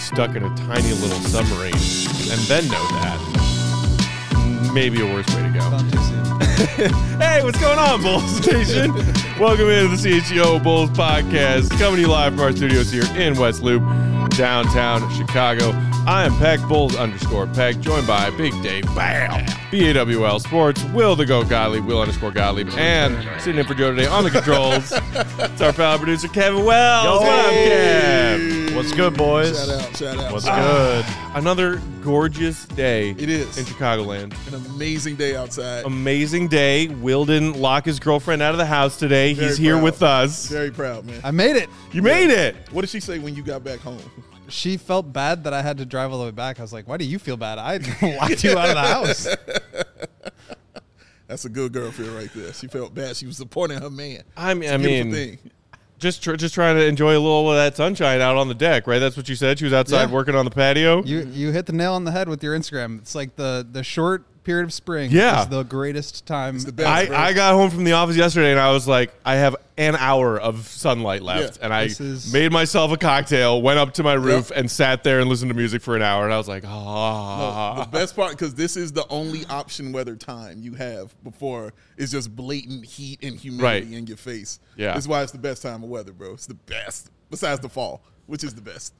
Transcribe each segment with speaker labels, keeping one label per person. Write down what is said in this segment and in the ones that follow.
Speaker 1: stuck in a tiny little submarine and then know that, maybe a worse way to go.
Speaker 2: Gone too soon.
Speaker 1: Hey, what's going on, Bulls Nation? Welcome into the CHGO Bulls podcast, coming to you live from our studios here in West Loop, downtown Chicago. I am Peck, Bulls_Peck, joined by Big Dave, BAM, BAWL Sports, Will the Goat Gottlieb, Will_Gottlieb, and sitting in for Joe today on the controls, it's our pal producer, Kevin Wells.
Speaker 3: Yo,
Speaker 1: What up, Kev?
Speaker 3: What's good, boys?
Speaker 2: Shout out.
Speaker 3: What's good?
Speaker 1: Another gorgeous day
Speaker 2: It is.
Speaker 1: in Chicagoland.
Speaker 2: An amazing day outside.
Speaker 1: Amazing day. Will didn't lock his girlfriend out of the house today.
Speaker 2: Very
Speaker 1: He's here
Speaker 2: proud.
Speaker 1: with us.
Speaker 2: Very proud, man.
Speaker 4: I made it.
Speaker 1: You made it.
Speaker 2: What did she say when you got back home?
Speaker 4: She felt bad that I had to drive all the way back. I was like, why do you feel bad? I locked you out of the house.
Speaker 2: That's a good girlfriend right there. She felt bad. She was supporting her man.
Speaker 1: I
Speaker 2: Beautiful
Speaker 1: mean,
Speaker 2: thing.
Speaker 1: just trying to enjoy a little of that sunshine out on the deck, right? That's what you said. She was outside
Speaker 4: Yeah.
Speaker 1: working on the patio.
Speaker 4: You hit the nail on the head with your Instagram. It's like the short period of spring
Speaker 1: Yeah.
Speaker 4: is the greatest time.
Speaker 2: It's the best. bro.
Speaker 1: I got home from the office yesterday and I was like, I have an hour of sunlight left.
Speaker 2: Yeah,
Speaker 1: and I
Speaker 4: this is-
Speaker 1: made myself a cocktail, went up to my roof and sat there and listened to music for an hour. And I was like, ah.
Speaker 2: No, the best part, because this is the only option weather time you have before it's just blatant heat and humidity
Speaker 1: Right.
Speaker 2: in your face.
Speaker 1: Yeah.
Speaker 2: That's why it's the best time of weather, bro. It's the best. Besides the fall, which is the best.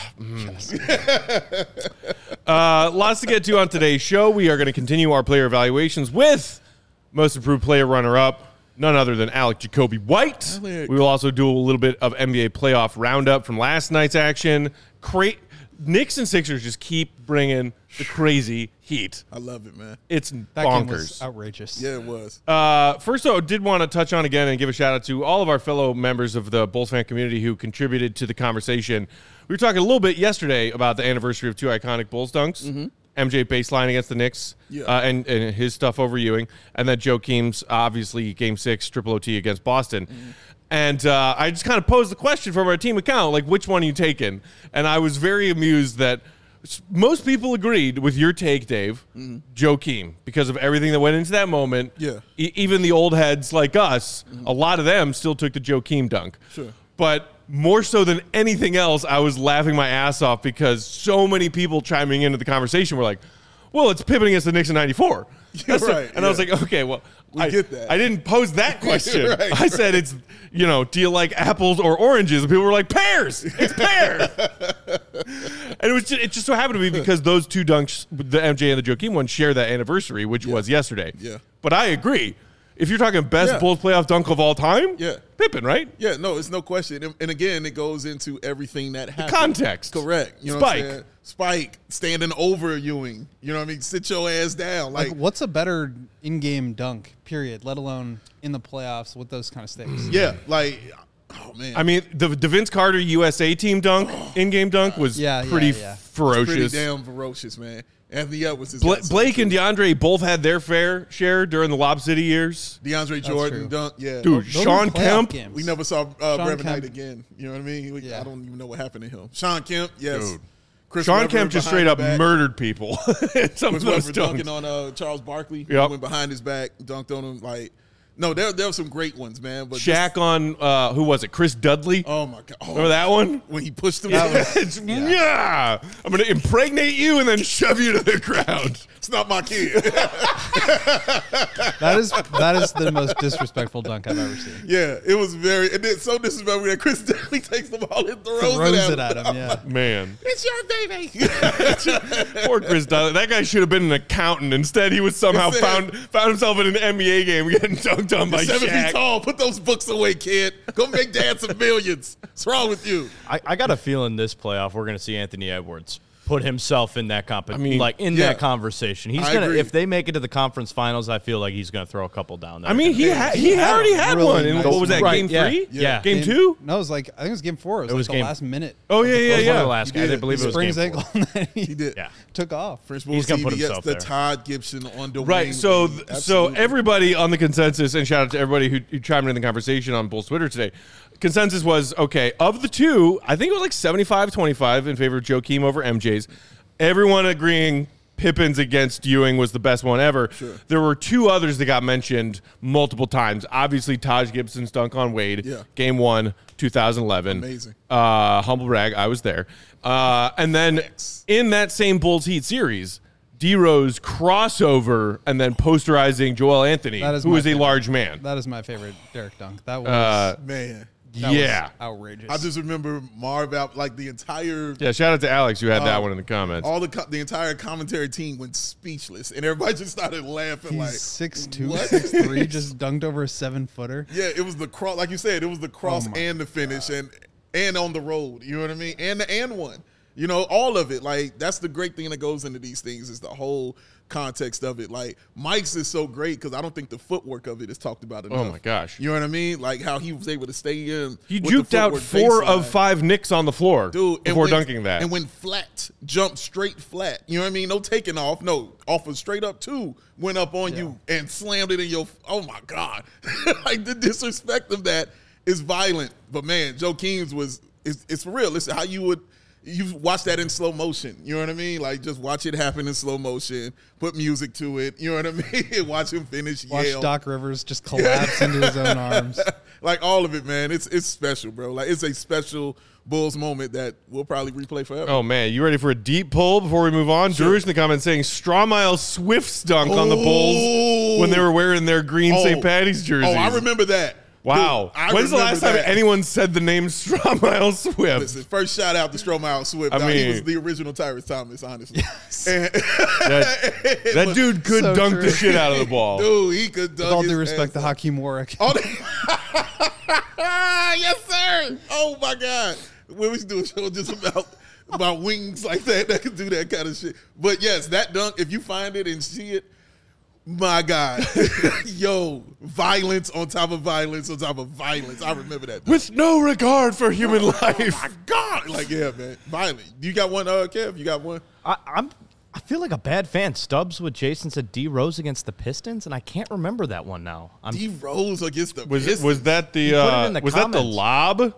Speaker 1: Lots to get to on today's show. We are going to continue our player evaluations with most improved player runner-up, none other than Alec Jacoby White.
Speaker 2: Alec.
Speaker 1: We will also do a little bit of NBA playoff roundup from last night's action. Knicks and Sixers just keep bringing the crazy heat.
Speaker 2: I love it, man.
Speaker 1: It's
Speaker 4: that game was
Speaker 1: bonkers.
Speaker 4: outrageous.
Speaker 2: Yeah, it was.
Speaker 1: First, though, did want to touch on again and give a shout out to all of our fellow members of the Bulls fan community who contributed to the conversation. We were talking a little bit yesterday about the anniversary of two iconic Bulls dunks. MJ baseline against the Knicks and his stuff over Ewing. And then Joakim's, obviously, Game 6, triple OT against Boston. And I just kind of posed the question from our team account, like, which one are you taking? And I was very amused that most people agreed with your take, Dave, Joakim, because of everything that went into that moment.
Speaker 2: Yeah.
Speaker 1: Even the old heads like us, a lot of them still took the Joakim dunk.
Speaker 2: Sure.
Speaker 1: But more so than anything else, I was laughing my ass off because so many people chiming into the conversation were like, well, it's Pippen against the Knicks in 94. That's
Speaker 2: right,
Speaker 1: and I was like, okay, well, I
Speaker 2: get that.
Speaker 1: I didn't pose that question.
Speaker 2: Right,
Speaker 1: I said it's, do you like apples or oranges? And people were like, pears. It's pears. And it just so happened to be because those two dunks, the MJ and the Joakim one, share that anniversary, which was yesterday.
Speaker 2: Yeah.
Speaker 1: But I agree. If you're talking best
Speaker 2: Yeah.
Speaker 1: Bulls playoff dunk of all time,
Speaker 2: Yeah.
Speaker 1: Pippen, right?
Speaker 2: Yeah, no, it's no question. And again, it goes into everything that happened.
Speaker 1: Context.
Speaker 2: Correct. You know
Speaker 1: Spike.
Speaker 2: what I'm saying? Spike standing over Ewing. You know what I mean? Sit your ass down.
Speaker 4: Like, what's a better in-game dunk, period, let alone in the playoffs with those kind of stakes?
Speaker 2: Yeah, like, oh, man.
Speaker 1: I mean, the Vince Carter USA team dunk, in-game dunk, was pretty ferocious.
Speaker 2: Pretty damn ferocious, man. Anthony Edwards is
Speaker 1: Blake and DeAndre both had their fair share during the Lob City years.
Speaker 2: DeAndre Jordan
Speaker 4: true.
Speaker 2: dunk. Yeah.
Speaker 1: Dude,
Speaker 4: Those were
Speaker 1: Sean
Speaker 4: playoff
Speaker 1: Kemp.
Speaker 4: games.
Speaker 2: We never saw Brevin
Speaker 4: Kemp.
Speaker 2: Knight again. You know what I mean?
Speaker 4: Yeah.
Speaker 2: I don't even know what happened to him. Sean Kemp, yes.
Speaker 1: Dude.
Speaker 2: Chris
Speaker 1: Sean
Speaker 2: Webber
Speaker 1: Kemp just
Speaker 2: behind
Speaker 1: straight
Speaker 2: the
Speaker 1: up
Speaker 2: back.
Speaker 1: murdered people. Some
Speaker 2: Chris
Speaker 1: of those
Speaker 2: Webber
Speaker 1: dunks.
Speaker 2: dunking on Charles Barkley.
Speaker 1: Yep.
Speaker 2: Went behind his back, dunked on him. Like, no, there were some great ones, man. But
Speaker 1: Shaq on, who was it? Chris Dudley?
Speaker 2: oh my god! Oh,
Speaker 1: Remember that one?
Speaker 2: when he pushed him?
Speaker 1: Yeah. I'm going to impregnate you and then shove you to the ground.
Speaker 2: It's not my kid.
Speaker 4: That is the most disrespectful dunk I've ever seen.
Speaker 2: Yeah, it was very. And then so disrespectful that Chris Dudley takes the ball and throws
Speaker 4: It at him, yeah.
Speaker 1: Man.
Speaker 2: It's your baby.
Speaker 1: Poor Chris Dudley. That guy should have been an accountant. Instead, he was somehow
Speaker 2: Yes,
Speaker 1: found himself in an NBA game getting dunked on by
Speaker 2: 7 feet
Speaker 1: Shaq.
Speaker 2: tall. Put those books away, kid. Go make dad some millions. What's wrong with you?
Speaker 3: I got a feeling this playoff we're going to see Anthony Edwards put himself in that
Speaker 2: yeah.
Speaker 3: that conversation. He's
Speaker 2: I
Speaker 3: gonna
Speaker 2: agree.
Speaker 3: if they make it to the conference finals, I feel like he's gonna throw a couple down there.
Speaker 1: I mean, he already had
Speaker 4: really
Speaker 1: one. In,
Speaker 4: nice
Speaker 1: what was that,
Speaker 3: Right,
Speaker 1: game
Speaker 3: yeah.
Speaker 1: 3?
Speaker 3: Yeah.
Speaker 1: Game 2?
Speaker 4: No, it was like, I think it was game 4. It was,
Speaker 3: was
Speaker 4: like the
Speaker 3: game-
Speaker 4: last minute.
Speaker 1: Oh, yeah,
Speaker 3: It
Speaker 1: yeah,
Speaker 3: was one of the
Speaker 1: yeah.
Speaker 3: last
Speaker 2: He
Speaker 3: guys. I
Speaker 2: did.
Speaker 3: believe it was
Speaker 4: Sprained his
Speaker 3: game
Speaker 4: ankle
Speaker 3: 4.
Speaker 4: and then
Speaker 2: He did.
Speaker 3: Yeah.
Speaker 4: took off.
Speaker 2: French
Speaker 3: He's gonna
Speaker 2: Bulls
Speaker 3: put
Speaker 2: TV gets
Speaker 3: himself
Speaker 2: the
Speaker 3: there.
Speaker 2: Todd Gibson on the
Speaker 1: Right,
Speaker 2: wing.
Speaker 1: so
Speaker 2: Absolutely.
Speaker 1: everybody on the consensus, and shout out to everybody who chimed in the conversation on Bulls Twitter today, consensus was, okay, of the two, I think it was like 75-25 in favor of Joakim over MJ's. Everyone agreeing Pippen's against Ewing was the best one ever.
Speaker 2: Sure.
Speaker 1: There were two others that got mentioned multiple times. Obviously, Taj Gibson's dunk on Wade,
Speaker 2: Yeah.
Speaker 1: Game 1, 2011.
Speaker 2: Amazing.
Speaker 1: Humble brag, I was there. And then in that same Bulls Heat series, D-Rose crossover and then posterizing Joel Anthony,
Speaker 4: That is
Speaker 1: who
Speaker 4: my
Speaker 1: is a
Speaker 4: favorite.
Speaker 1: large man.
Speaker 4: That is my favorite Derek dunk. That was,
Speaker 2: Man.
Speaker 4: that was
Speaker 1: Yeah.
Speaker 4: outrageous.
Speaker 2: I just remember Marv out, like the entire
Speaker 1: Yeah, shout out to Alex who had that one in the comments.
Speaker 2: all the entire commentary team went speechless, and everybody just started laughing.
Speaker 4: He's
Speaker 2: Like
Speaker 4: 6'2",
Speaker 2: what?
Speaker 4: 6'3", just dunked over a 7-footer.
Speaker 2: Yeah, it was the cross, like you said, it was the cross
Speaker 4: my
Speaker 2: and the finish, and on the road. You know what I mean? And the and one. You know, all of it. Like that's the great thing that goes into these things is the whole context of it. Like Mike's is so great because I don't think the footwork of it is talked about enough.
Speaker 1: Oh my gosh.
Speaker 2: You know what I mean? Like how he was able to stay in.
Speaker 1: He
Speaker 2: with the
Speaker 1: juked out
Speaker 2: footwork
Speaker 1: 4
Speaker 2: baseline.
Speaker 1: of 5 nicks on the floor
Speaker 2: Dude,
Speaker 1: before dunking that.
Speaker 2: And when flat, jumped straight flat. You know what I mean? No taking off. No, off of straight up 2, went up on you and slammed it in your. Oh my God! Like the disrespect of that is violent. But man, Joe Keems it's for real. Listen, how you watch that in slow motion. You know what I mean? Like just watch it happen in slow motion. Put music to it. You know what I mean? Watch him finish.
Speaker 4: Watch
Speaker 2: yell.
Speaker 4: Doc Rivers just collapse into his own arms.
Speaker 2: Like all of it, man. It's special, bro. Like it's a special Bulls moment that we'll probably replay forever.
Speaker 1: Oh man, you ready for a deep pull before we move on? Drury's in the comments saying Strawmile Swift's dunk on the Bulls when they were wearing their green St. Patty's jerseys.
Speaker 2: Oh, I remember that.
Speaker 1: Wow.
Speaker 2: Dude,
Speaker 1: When's the last time
Speaker 2: that.
Speaker 1: anyone said the name Strawmile Swift?
Speaker 2: Listen, first shout out to Stromile Swift.
Speaker 1: I
Speaker 2: Dog. He
Speaker 1: mean-
Speaker 2: was the original Tyrese Thomas, honestly. And-
Speaker 1: That dude could
Speaker 4: So
Speaker 1: dunk
Speaker 4: true.
Speaker 1: the shit out of the ball.
Speaker 2: dude, he could dunk
Speaker 4: With all
Speaker 2: his
Speaker 4: due respect to
Speaker 2: ass off.
Speaker 4: Hakeem Warwick.
Speaker 2: Oh, yes, sir. Oh my God. We should do a show just about wings like that could do that kind of shit. But yes, that dunk, if you find it and see it, my God. Yo, violence on top of violence on top of violence. I remember that.
Speaker 1: With no regard for human life.
Speaker 2: My God. Like, yeah, man. Violent. You got one, Kev? You got one?
Speaker 3: I feel like a bad fan. Stubbs with Jason said D Rose against the Pistons, and I can't remember that one now.
Speaker 2: D Rose against the
Speaker 1: Was
Speaker 2: Pistons.
Speaker 1: that the
Speaker 3: put it in the
Speaker 1: was that the
Speaker 3: comments.
Speaker 1: lob?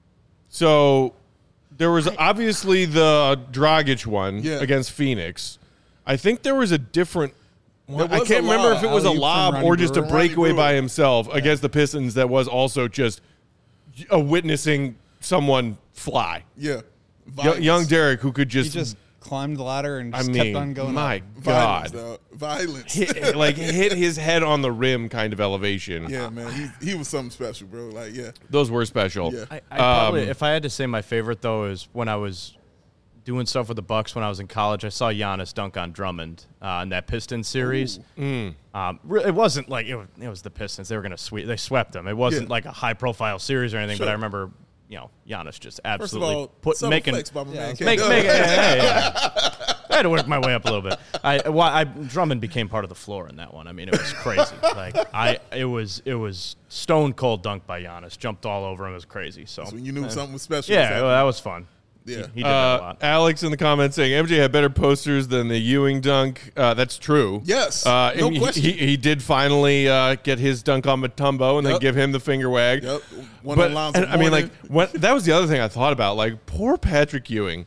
Speaker 1: So there was obviously the Dragic one
Speaker 2: Yeah.
Speaker 1: against Phoenix. I think there was a different one.
Speaker 2: There
Speaker 1: I
Speaker 2: was
Speaker 1: can't
Speaker 2: a
Speaker 1: remember
Speaker 2: lob.
Speaker 1: if it was a
Speaker 4: Alley-oop from
Speaker 1: lob
Speaker 4: Ronnie
Speaker 1: or just a
Speaker 4: Brewer.
Speaker 1: breakaway
Speaker 2: Ronnie
Speaker 1: by
Speaker 2: Brewer.
Speaker 1: himself against the Pistons that was also just witnessing someone fly.
Speaker 2: Yeah.
Speaker 1: Young Derek who could
Speaker 4: He
Speaker 1: just,
Speaker 4: just climbed the ladder and
Speaker 1: I
Speaker 4: just
Speaker 1: mean,
Speaker 4: kept on going
Speaker 1: my
Speaker 4: up.
Speaker 2: Violence,
Speaker 1: God.
Speaker 2: dog. Violence.
Speaker 1: hit his head on the rim kind of elevation.
Speaker 2: Yeah, man. He was something special, bro. Like, yeah.
Speaker 1: Those were special.
Speaker 2: Yeah.
Speaker 3: I probably, if I had to say my favorite though, is when I was doing stuff with the Bucks when I was in college. I saw Giannis dunk on Drummond in that Pistons series. It wasn't like it was the Pistons. They were gonna sweep. They swept them. It wasn't
Speaker 2: Yeah.
Speaker 3: like a high profile series or anything. But
Speaker 2: Sure.
Speaker 3: I remember, Giannis just
Speaker 2: First of
Speaker 3: absolutely
Speaker 2: all, subtle
Speaker 3: making.
Speaker 2: flex by my man.
Speaker 3: Make,
Speaker 2: Kev.
Speaker 3: make, yeah. I had to work my way up a little bit. Drummond became part of the floor in that one. I mean, it was crazy. It was stone cold dunk by Giannis. Jumped all over him. It was crazy. So
Speaker 2: When you knew something was special. was
Speaker 3: yeah,
Speaker 2: happening.
Speaker 3: well, that was fun.
Speaker 2: Yeah.
Speaker 3: He did that a lot.
Speaker 1: Alex in the comments saying MJ had better posters than the Ewing dunk. That's true.
Speaker 2: Yes,
Speaker 1: And
Speaker 2: no
Speaker 1: he-
Speaker 2: question.
Speaker 1: He did finally get his dunk on Matumbo and then
Speaker 2: Yep.
Speaker 1: give him the finger wag.
Speaker 2: Yep. One
Speaker 1: But
Speaker 2: on lines
Speaker 1: and,
Speaker 2: of
Speaker 1: I mean, like
Speaker 2: morning.
Speaker 1: that was the other thing I thought about. Like poor Patrick Ewing,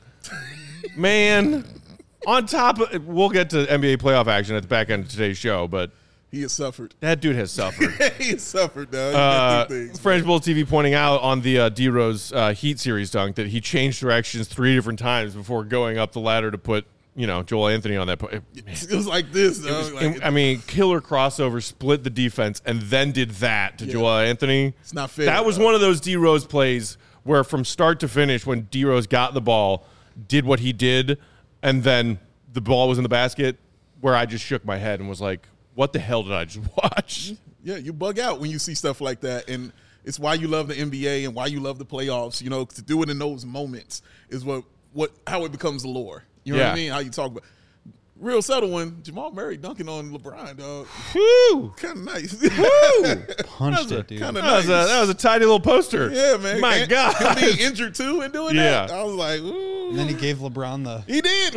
Speaker 1: man. On top of, we'll get to NBA playoff action at the back end of today's show, but
Speaker 2: He has suffered.
Speaker 1: that dude has suffered.
Speaker 2: He has suffered, dog. He been through things.
Speaker 1: French Bull TV pointing out on the D-Rose Heat series dunk that he changed directions 3 different times before going up the ladder to put, Joel Anthony on that.
Speaker 2: It was like this, dog. Like,
Speaker 1: I mean, killer crossover, split the defense, and then did that to Joel Anthony.
Speaker 2: It's not fair,
Speaker 1: That was
Speaker 2: dog.
Speaker 1: one of those D-Rose plays where from start to finish, when D-Rose got the ball, did what he did, and then the ball was in the basket, where I just shook my head and was like, what the hell did I just watch?
Speaker 2: yeah, you bug out when you see stuff like that. And it's why you love the NBA and why you love the playoffs. To do it in those moments is how it becomes the lore. You know what I
Speaker 1: Yeah.
Speaker 2: mean? How you talk about. Real subtle one, Jamal Murray dunking on LeBron, dog.
Speaker 1: Whew!
Speaker 2: Kind of nice.
Speaker 4: Punched it, dude.
Speaker 2: Kind of
Speaker 1: That
Speaker 2: nice.
Speaker 1: was a tiny little poster.
Speaker 2: Yeah, man.
Speaker 1: My
Speaker 2: And
Speaker 1: God.
Speaker 2: him being injured too and doing
Speaker 1: Yeah.
Speaker 2: that. I was like, ooh.
Speaker 4: And then he gave LeBron the.
Speaker 2: He did.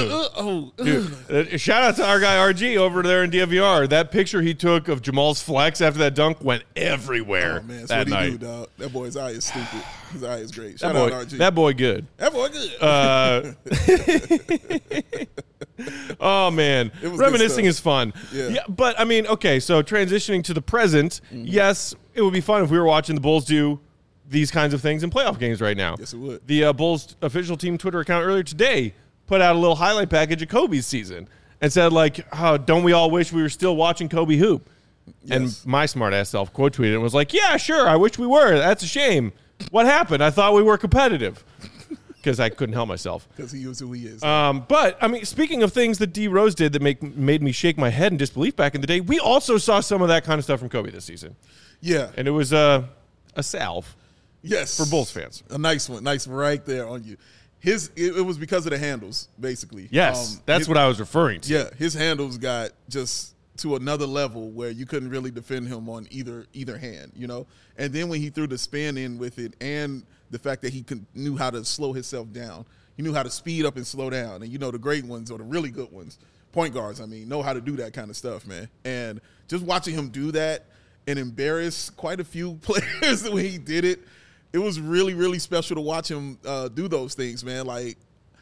Speaker 1: Dude, shout out to our guy RG over there in DVR. That picture he took of Jamal's flex after that dunk went everywhere
Speaker 2: Oh, man, that's
Speaker 1: that
Speaker 2: what he
Speaker 1: night.
Speaker 2: do, dog. That boy's eye is stupid. His eye is great.
Speaker 1: That
Speaker 2: Shout
Speaker 1: boy,
Speaker 2: out RG.
Speaker 1: that boy good.
Speaker 2: That boy good.
Speaker 1: Oh, man.
Speaker 2: It was good
Speaker 1: Reminiscing
Speaker 2: stuff.
Speaker 1: is fun.
Speaker 2: Yeah.
Speaker 1: But, I mean, okay, so transitioning to the present, yes, it would be fun if we were watching the Bulls do these kinds of things in playoff games right now.
Speaker 2: Yes, it would.
Speaker 1: The Bulls official team Twitter account earlier today put out a little highlight package of Kobe's season and said, like, oh, don't we all wish we were still watching Kobe hoop?
Speaker 2: Yes.
Speaker 1: And my smart-ass self quote tweeted and was like, yeah, sure, I wish we were. That's a shame. What happened? I thought we were competitive. Because I couldn't help myself.
Speaker 2: Because he is who he is.
Speaker 1: But, I mean, speaking of things that D. Rose did that made me shake my head in disbelief back in the day, we also saw some of that kind of stuff from Kobe this season.
Speaker 2: Yeah.
Speaker 1: And it was a salve
Speaker 2: Yes.
Speaker 1: for Bulls fans.
Speaker 2: A nice one. Nice one right there on you. It was because of the handles, basically.
Speaker 1: Yes, that's what I was referring to.
Speaker 2: Yeah, his handles got just to another level where you couldn't really defend him on either hand, you know? And then when he threw the spin in with it and the fact that he knew how to slow himself down. He knew how to speed up and slow down. And, you know, the great ones or the really good ones, point guards, I mean, know how to do that kind of stuff, man. And just watching him do that and embarrass quite a few players the way he did it, it was really, really special to watch him do those things, man. Like,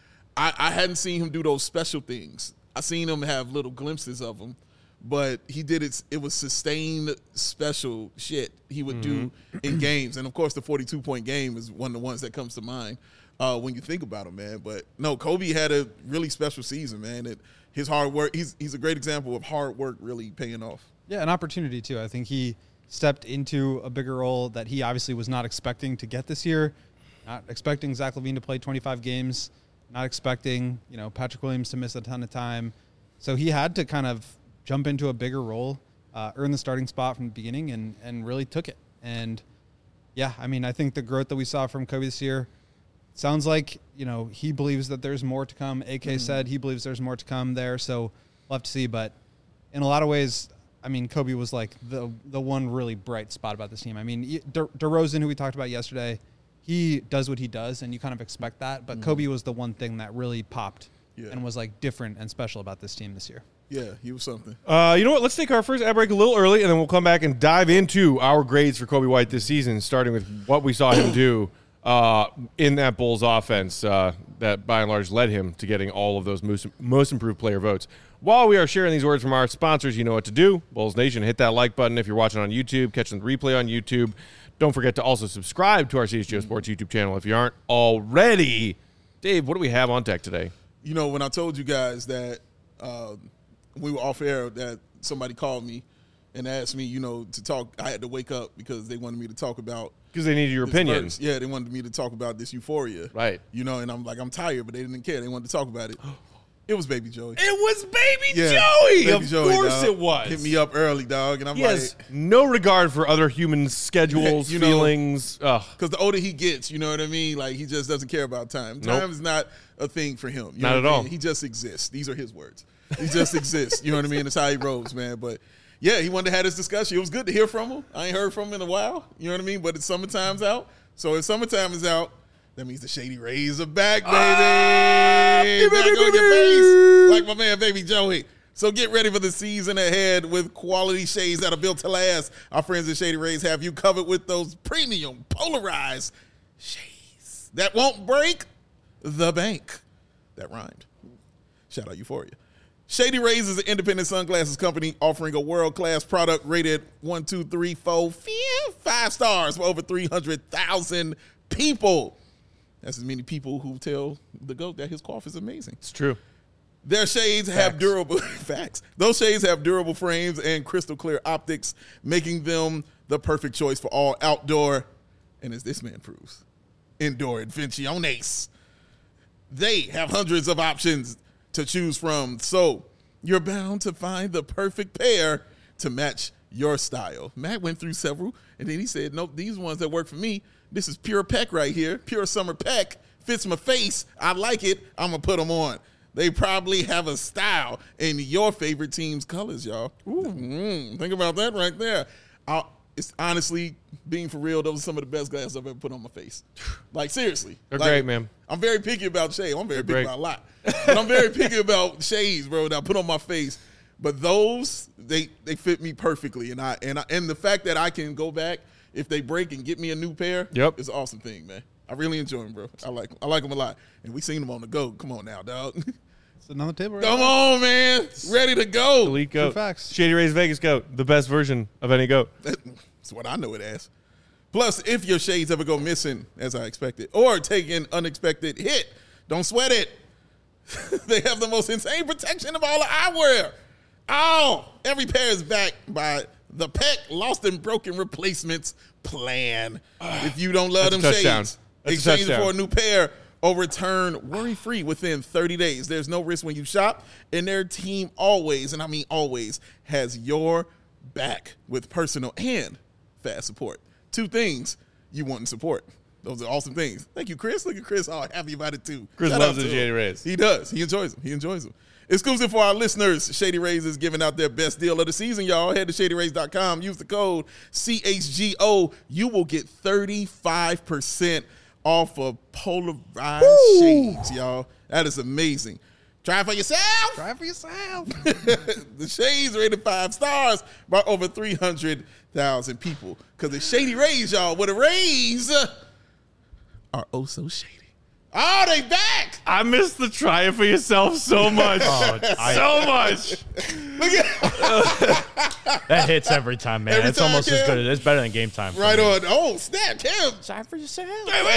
Speaker 2: I hadn't seen him do those special things. I seen him have little glimpses of them. But he did it. It was sustained special shit he would do in games, and of course, the 42-point game is one of the ones that comes to mind when you think about him, man. But no, Kobe had a really special season, man. And his hard work. He's a great example of hard work really paying off.
Speaker 4: Yeah, an opportunity too. I think he stepped into a bigger role that he obviously was not expecting to get this year. Not expecting Zach LaVine to play 25 games. Not expecting Patrick Williams to miss a ton of time. So he had to kind of jump into a bigger role, earn the starting spot from the beginning, and really took it. And, yeah, I mean, I think the growth that we saw from Kobe this year sounds like, he believes that there's more to come. AK said he believes there's more to come there, so we'll have to see. But in a lot of ways, I mean, Kobe was like the one really bright spot about this team. I mean, DeRozan, who we talked about yesterday, he does what he does, and you kind of expect that. But Kobe was the one thing that really popped and was, like, different and special about this team this year.
Speaker 2: Yeah, he was something.
Speaker 1: You know what? Let's take our first ad break a little early, and then we'll come back and dive into our grades for Kobe White this season, starting with what we saw him do in that Bulls offense that, by and large, led him to getting all of those most improved player votes. While we are sharing these words from our sponsors, you know what to do. Bulls Nation, hit that like button if you're watching on YouTube, catching the replay on YouTube. Don't forget to also subscribe to our CHGO Sports YouTube channel if you aren't already. Dave, what do we have on deck today?
Speaker 2: You know, when I told you guys that we were off air, that somebody called me and asked me, to talk. I had to wake up because they wanted me to talk about.
Speaker 1: Because they needed your opinion.
Speaker 2: Verse. Yeah, they wanted me to talk about this euphoria.
Speaker 1: Right.
Speaker 2: And I'm like, I'm tired, but they didn't care. They wanted to talk about it. It was Baby Joey.
Speaker 1: It was Baby
Speaker 2: Yeah,
Speaker 1: Joey.
Speaker 2: Baby
Speaker 1: Of
Speaker 2: Joey,
Speaker 1: course
Speaker 2: dog.
Speaker 1: it was.
Speaker 2: Hit me up early, dog. And I'm
Speaker 1: He
Speaker 2: like,
Speaker 1: has no regard for other human schedules, feelings.
Speaker 2: because the older he gets, you know what I mean? Like, he just doesn't care about time.
Speaker 1: Nope.
Speaker 2: Time is not a thing for him. You
Speaker 1: Not
Speaker 2: know
Speaker 1: at
Speaker 2: what I
Speaker 1: all.
Speaker 2: mean? He just exists. These are his words. He just exists. You know what I mean? That's how he rolls, man. But, yeah, he wanted to have this discussion. It was good to hear from him. I ain't heard from him in a while. You know what I mean? But it's summertime's out. So if summertime is out, that means the Shady Rays are back, baby. Back on your face, like my man, Baby Joey. So get ready for the season ahead with quality shades that are built to last. Our friends at Shady Rays have you covered with those premium polarized shades that won't break the bank. That rhymed. Shout out Euphoria. Shady Rays is an independent sunglasses company offering a world-class product rated 1, 2, 3, 4, 5 stars for over 300,000 people. That's as many people who tell the GOAT that his cough is amazing.
Speaker 1: It's true.
Speaker 2: Their shades have durable facts. Those shades have durable frames and crystal clear optics, making them the perfect choice for all outdoor, and as this man proves, indoor adventures. They have hundreds of options to choose from, so you're bound to find the perfect pair to match your style. Matt went through several, and then he said, nope, these ones that work for me, this is pure Peck right here, pure summer Peck, fits my face, I like it, I'm going to put them on. They probably have a style in your favorite team's colors, y'all. Think about that right there. It's honestly, being for real, those are some of the best glasses I've ever put on my face. Like, seriously.
Speaker 1: They're
Speaker 2: Like,
Speaker 1: great, man.
Speaker 2: I'm very picky about shades. I'm very
Speaker 1: They're
Speaker 2: picky
Speaker 1: great.
Speaker 2: about a lot. But I'm very picky about shades, bro, that I put on my face. But those, they fit me perfectly. And the fact that I can go back if they break and get me a new pair is an awesome thing, man. I really enjoy them, bro. I like them a lot. And we seen them on the go. Come on now, dog.
Speaker 4: Sitting on the table right
Speaker 2: Come
Speaker 4: now.
Speaker 2: on, man. Ready to go.
Speaker 1: Elite goat.
Speaker 4: facts.
Speaker 1: Shady Rays Vegas goat. The best version of any goat.
Speaker 2: That's what I know it as. Plus, if your shades ever go missing, as I expected, or take an unexpected hit, don't sweat it. They have the most insane protection of all the eyewear. Oh, every pair is backed by the Peck Lost and Broken Replacements Plan. If you don't love
Speaker 1: That's
Speaker 2: them
Speaker 1: a touchdown.
Speaker 2: shades,
Speaker 1: That's a
Speaker 2: exchange it
Speaker 1: touchdown.
Speaker 2: for a new pair or return worry-free within 30 days. There's no risk when you shop, and their team always, and I mean always, has your back with personal and fast support. Two things you want in support. Those are awesome things. Thank you, Chris. Look at Chris, all happy about it too.
Speaker 1: Chris
Speaker 2: Shout
Speaker 1: loves
Speaker 2: out
Speaker 1: the
Speaker 2: to
Speaker 1: Shady
Speaker 2: him.
Speaker 1: Rays.
Speaker 2: He does. He enjoys them. Exclusive for our listeners, Shady Rays is giving out their best deal of the season, y'all. Head to ShadyRays.com. Use the code CHGO. You will get 35% off of polarized shades, y'all. That is amazing. Try it for yourself.
Speaker 4: Try it for yourself.
Speaker 2: The shades rated 5 stars by over 300,000 people. Because it's Shady Rays, y'all. Where the Rays are oh so shady. Oh, they back.
Speaker 1: I miss the try it for yourself so much. So much.
Speaker 2: Look at
Speaker 3: That hits every time, man.
Speaker 2: Every
Speaker 3: It's
Speaker 2: time,
Speaker 3: almost as
Speaker 2: Cam.
Speaker 3: good. It's better than game time. for
Speaker 2: right
Speaker 3: me.
Speaker 2: on. Oh, snap, Cam.
Speaker 3: Sorry for yourself.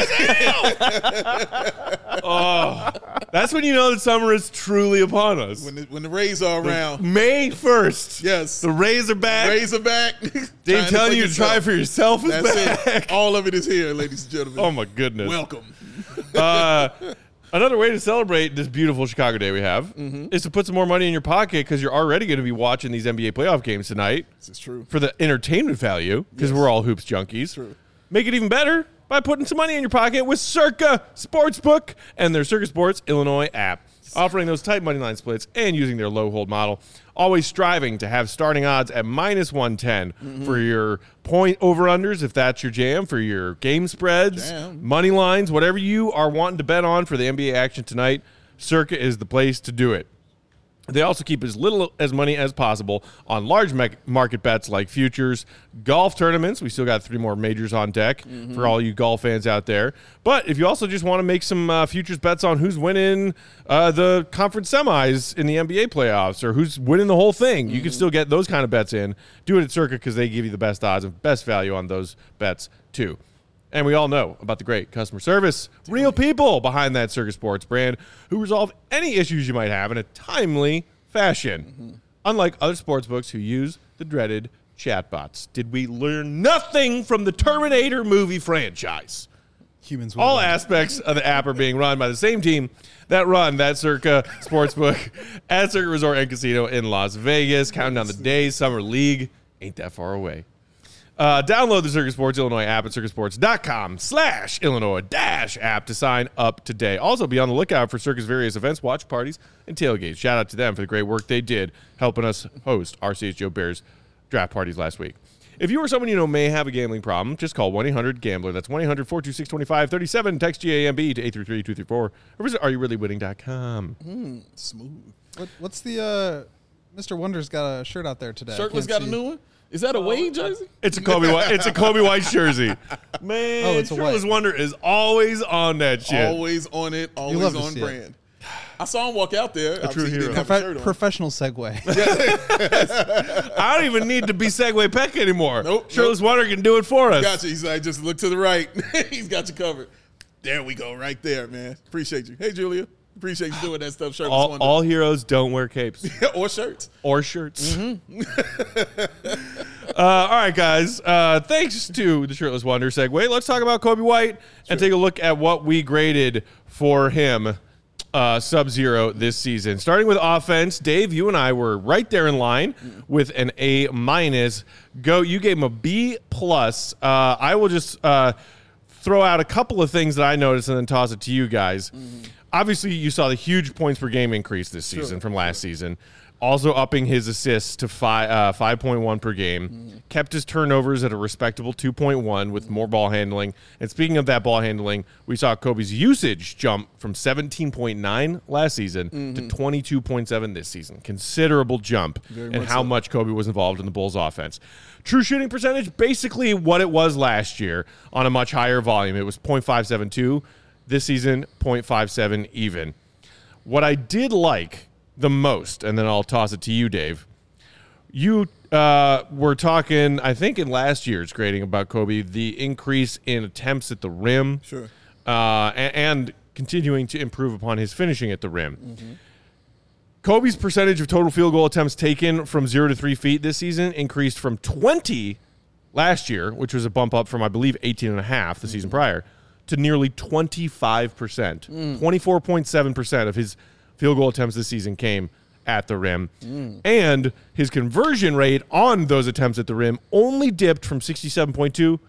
Speaker 1: That's when you know that summer is truly upon us.
Speaker 2: When the Rays are around.
Speaker 1: May 1st.
Speaker 2: Yes.
Speaker 1: The Rays are back.
Speaker 2: Rays are back.
Speaker 1: Dave
Speaker 2: Trying
Speaker 1: telling
Speaker 2: for
Speaker 1: you to try
Speaker 2: yourself.
Speaker 1: for yourself is
Speaker 2: That's
Speaker 1: back.
Speaker 2: it. All of it is here, ladies and gentlemen.
Speaker 1: Oh, my goodness.
Speaker 2: Welcome.
Speaker 1: Another way to celebrate this beautiful Chicago day we have is to put some more money in your pocket because you're already going to be watching these NBA playoff games tonight
Speaker 2: This is true.
Speaker 1: for the entertainment value because we're all hoops junkies.
Speaker 2: True.
Speaker 1: Make it even better by putting some money in your pocket with Circa Sportsbook and their Circa Sports Illinois app, offering those tight money line splits and using their low hold model. Always striving to have starting odds at minus 110 for your point over-unders, if that's your jam, for your game spreads,
Speaker 2: Jam.
Speaker 1: money lines, whatever you are wanting to bet on for the NBA action tonight, Circa is the place to do it. They also keep as little as money as possible on large market bets like futures, golf tournaments. We still got 3 more majors on deck for all you golf fans out there. But if you also just want to make some futures bets on who's winning the conference semis in the NBA playoffs or who's winning the whole thing, you can still get those kind of bets in. Do it at Circa because they give you the best odds and best value on those bets too. And we all know about the great customer service, real people behind that Circa Sports brand who resolve any issues you might have in a timely fashion. Unlike other sportsbooks who use the dreaded chatbots. Did we learn nothing from the Terminator movie franchise?
Speaker 4: Humans will
Speaker 1: All
Speaker 4: win.
Speaker 1: aspects of the app are being run by the same team that run that Circa Sportsbook at Circa Resort and Casino in Las Vegas. Counting down the days, Summer League ain't that far away. Download the Circa Sports Illinois app at circasports.com/Illinois-app to sign up today. Also, be on the lookout for Circa's various events, watch parties, and tailgates. Shout out to them for the great work they did helping us host our CHGO Bears draft parties last week. If you or someone you know may have a gambling problem, just call 1-800-GAMBLER. That's 1-800-426-2537. Text GAMB to 833-234 or visit areyourreallywinning.com.
Speaker 2: Smooth.
Speaker 4: What's the Mr. Wonder's got a shirt out there today? I
Speaker 2: Shirtless
Speaker 4: can't
Speaker 2: got a
Speaker 4: see.
Speaker 2: new one? Is that a Wade jersey?
Speaker 1: It's a Kobe White. It's a Kobe White jersey. Man,
Speaker 4: Oh, it's a
Speaker 1: Shirtless
Speaker 4: white.
Speaker 1: Wonder is always on that shit.
Speaker 2: Always on it, always
Speaker 4: love to
Speaker 2: on
Speaker 4: see it.
Speaker 2: brand. I saw him walk out there. Obviously, he
Speaker 1: hero.
Speaker 2: didn't have a shirt on.
Speaker 4: Professional segue.
Speaker 1: I don't even need to be Segway Peck anymore.
Speaker 2: Nope,
Speaker 1: Shirtless Wonder can do it for us.
Speaker 2: Gotcha. He's like, just look to the right. He's got you covered. There we go, right there, man. Appreciate you. Hey, Julia. Appreciate you doing that stuff. Shirtless Wonder.
Speaker 1: All heroes don't wear capes
Speaker 2: or shirts.
Speaker 1: or shirts. All right, guys. Thanks to the Shirtless Wonder segue. Let's talk about Kobe White and take a look at what we graded for him sub-zero this season. Starting with offense, Dave, you and I were right there in line with an A-. Go, you gave him a B+. I will just throw out a couple of things that I noticed and then toss it to you guys. Obviously, you saw the huge points per game increase this season from last season. Also upping his assists to 5.1 per game. Kept his turnovers at a respectable 2.1 with more ball handling. And speaking of that ball handling, we saw Kobe's usage jump from 17.9 last season to 22.7 this season. Considerable jump in how much Kobe was involved in the Bulls offense. True shooting percentage, basically what it was last year on a much higher volume. It was .572. This season, .57 even. What I did like the most, and then I'll toss it to you, Dave. You were talking, I think, in last year's grading about Kobe, the increase in attempts at the rim.
Speaker 2: Sure.
Speaker 1: And continuing to improve upon his finishing at the rim. Mm-hmm. Kobe's percentage of total field goal attempts taken from 0 to 3 feet this season increased from 20 last year, which was a bump up from, I believe, 18.5 the season prior, to nearly 25%. 24.7% of his field goal attempts this season came at the rim. And his conversion rate on those attempts at the rim only dipped from 67.2 to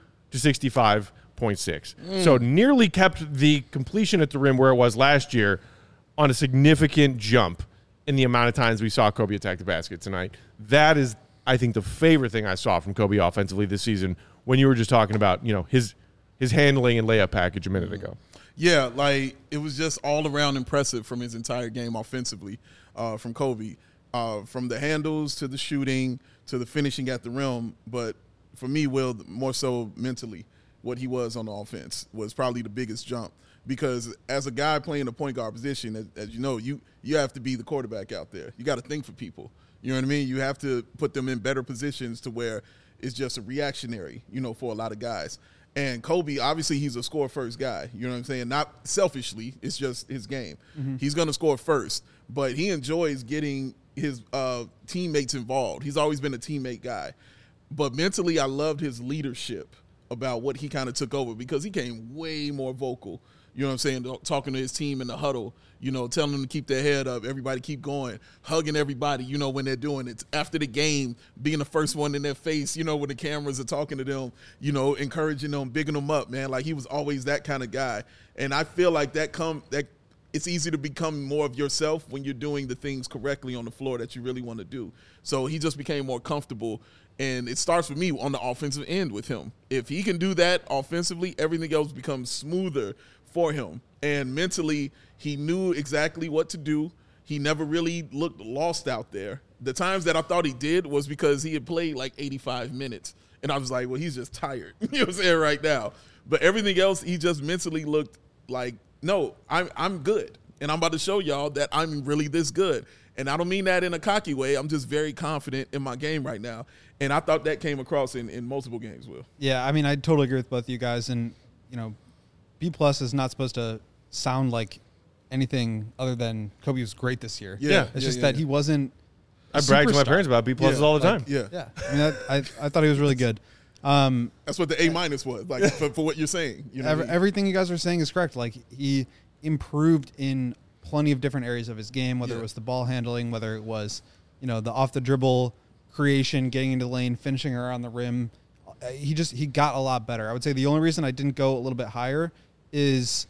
Speaker 1: 65.6. So nearly kept the completion at the rim where it was last year on a significant jump in the amount of times we saw Kobe attack the basket tonight. That is, I think, the favorite thing I saw from Kobe offensively this season when you were just talking about, his handling and layup package a minute ago.
Speaker 2: Yeah, like it was just all around impressive from his entire game offensively from Kobe, from the handles to the shooting to the finishing at the rim. But for me, Will, more so mentally, what he was on the offense was probably the biggest jump. Because as a guy playing the point guard position, as you know, you have to be the quarterback out there. You got to think for people. You know what I mean? You have to put them in better positions to where it's just a reactionary, for a lot of guys. And Kobe, obviously, he's a score-first guy. You know what I'm saying? Not selfishly. It's just his game. Mm-hmm. He's going to score first. But he enjoys getting his teammates involved. He's always been a teammate guy. But mentally, I loved his leadership about what he kind of took over because he came way more vocal. You know what I'm saying? Talking to his team in the huddle, telling them to keep their head up, everybody keep going, hugging everybody, when they're doing it. After the game, being the first one in their face, when the cameras are talking to them, encouraging them, bigging them up, man. Like he was always that kind of guy. And I feel like that it's easy to become more of yourself when you're doing the things correctly on the floor that you really want to do. So he just became more comfortable. And it starts with me on the offensive end with him. If he can do that offensively, everything else becomes smoother for him. And mentally, he knew exactly what to do. He never really looked lost out there. The times that I thought he did was because he had played like 85 minutes. And I was like, well, he's just tired. You know what I'm saying right now. But everything else, he just mentally looked like, no, I'm good. And I'm about to show y'all that I'm really this good. And I don't mean that in a cocky way. I'm just very confident in my game right now. And I thought that came across in multiple games, Will.
Speaker 4: Yeah, I mean, I totally agree with both of you guys. And, B+ is not supposed to sound like anything other than Kobe was great this year.
Speaker 1: Yeah.
Speaker 4: It's just that he wasn't
Speaker 1: I brag to my parents about B+ all the time.
Speaker 2: Yeah.
Speaker 4: I mean, I thought he was really good.
Speaker 2: That's what the A- was, like for what you're saying.
Speaker 4: Everything you guys are saying is correct. Like he improved in plenty of different areas of his game, whether it was the ball handling, whether it was, the off the dribble creation, getting into the lane, finishing around the rim. He got a lot better. I would say the only reason I didn't go a little bit higher is,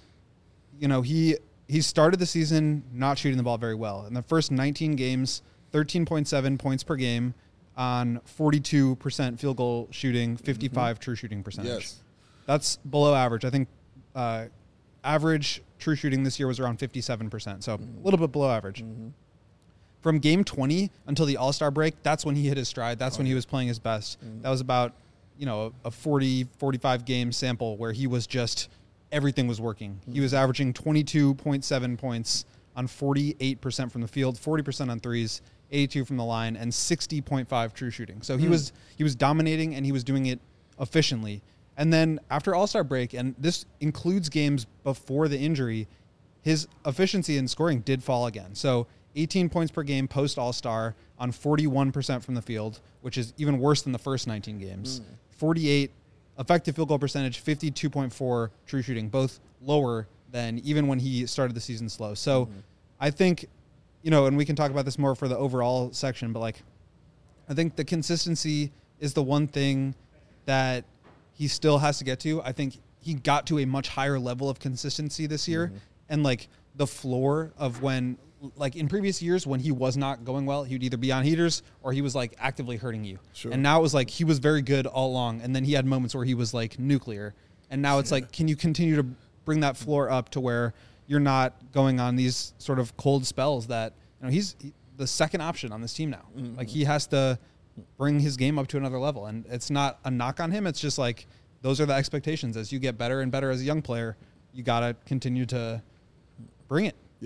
Speaker 4: he started the season not shooting the ball very well. In the first 19 games, 13.7 points per game on 42% field goal shooting, 55 true shooting percentage.
Speaker 2: Yes.
Speaker 4: That's below average. I think average true shooting this year was around 57%, so a little bit below average. Mm-hmm. From game 20 until the All-Star break, that's when he hit his stride. That's when he was playing his best. Mm-hmm. That was about, a 40, 45 game sample where he was just, everything was working. Mm-hmm. He was averaging 22.7 points on 48% from the field, 40% on threes, 82 from the line, and 60.5 true shooting. So he was dominating, and he was doing it efficiently. And then after All-Star break, and this includes games before the injury, his efficiency in scoring did fall again. So 18 points per game post All-Star on 41% from the field, which is even worse than the first 19 games. 48 effective field goal percentage, 52.4 true shooting, both lower than even when he started the season slow. So I think, and we can talk about this more for the overall section, but I think the consistency is the one thing that he still has to get to. I think he got to a much higher level of consistency this year. And the floor of when, in previous years when he was not going well, he would either be on heaters or he was actively hurting you. Sure. And now it was he was very good all along. And then he had moments where he was nuclear. And now it's can you continue to bring that floor up to where you're not going on these sort of cold spells that, he's the second option on this team now. Mm-hmm. He has to bring his game up to another level. And it's not a knock on him. It's just those are the expectations. As you get better and better as a young player, you got to continue to bring it.
Speaker 2: Yeah.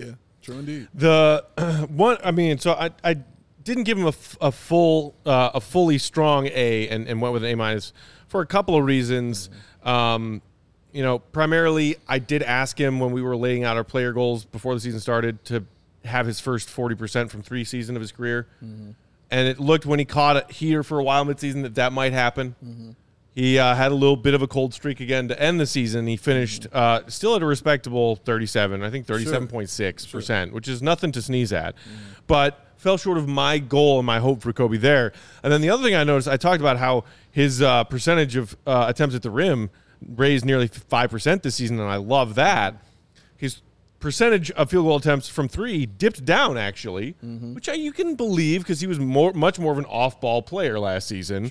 Speaker 2: True indeed.
Speaker 1: The one, I mean, so I didn't give him a fully strong A and went with an A- for a couple of reasons. Primarily, I did ask him when we were laying out our player goals before the season started to have his first 40% from 3 season of his career. And it looked when he caught it here for a while midseason that might happen. He had a little bit of a cold streak again to end the season. He finished still at a respectable 37, I think 37.6%, which is nothing to sneeze at. But fell short of my goal and my hope for Kobe there. And then the other thing I noticed, I talked about how his percentage of attempts at the rim raised nearly 5% this season, and I love that. His percentage of field goal attempts from 3 dipped down, actually, which you can believe because he was much more of an off-ball player last season.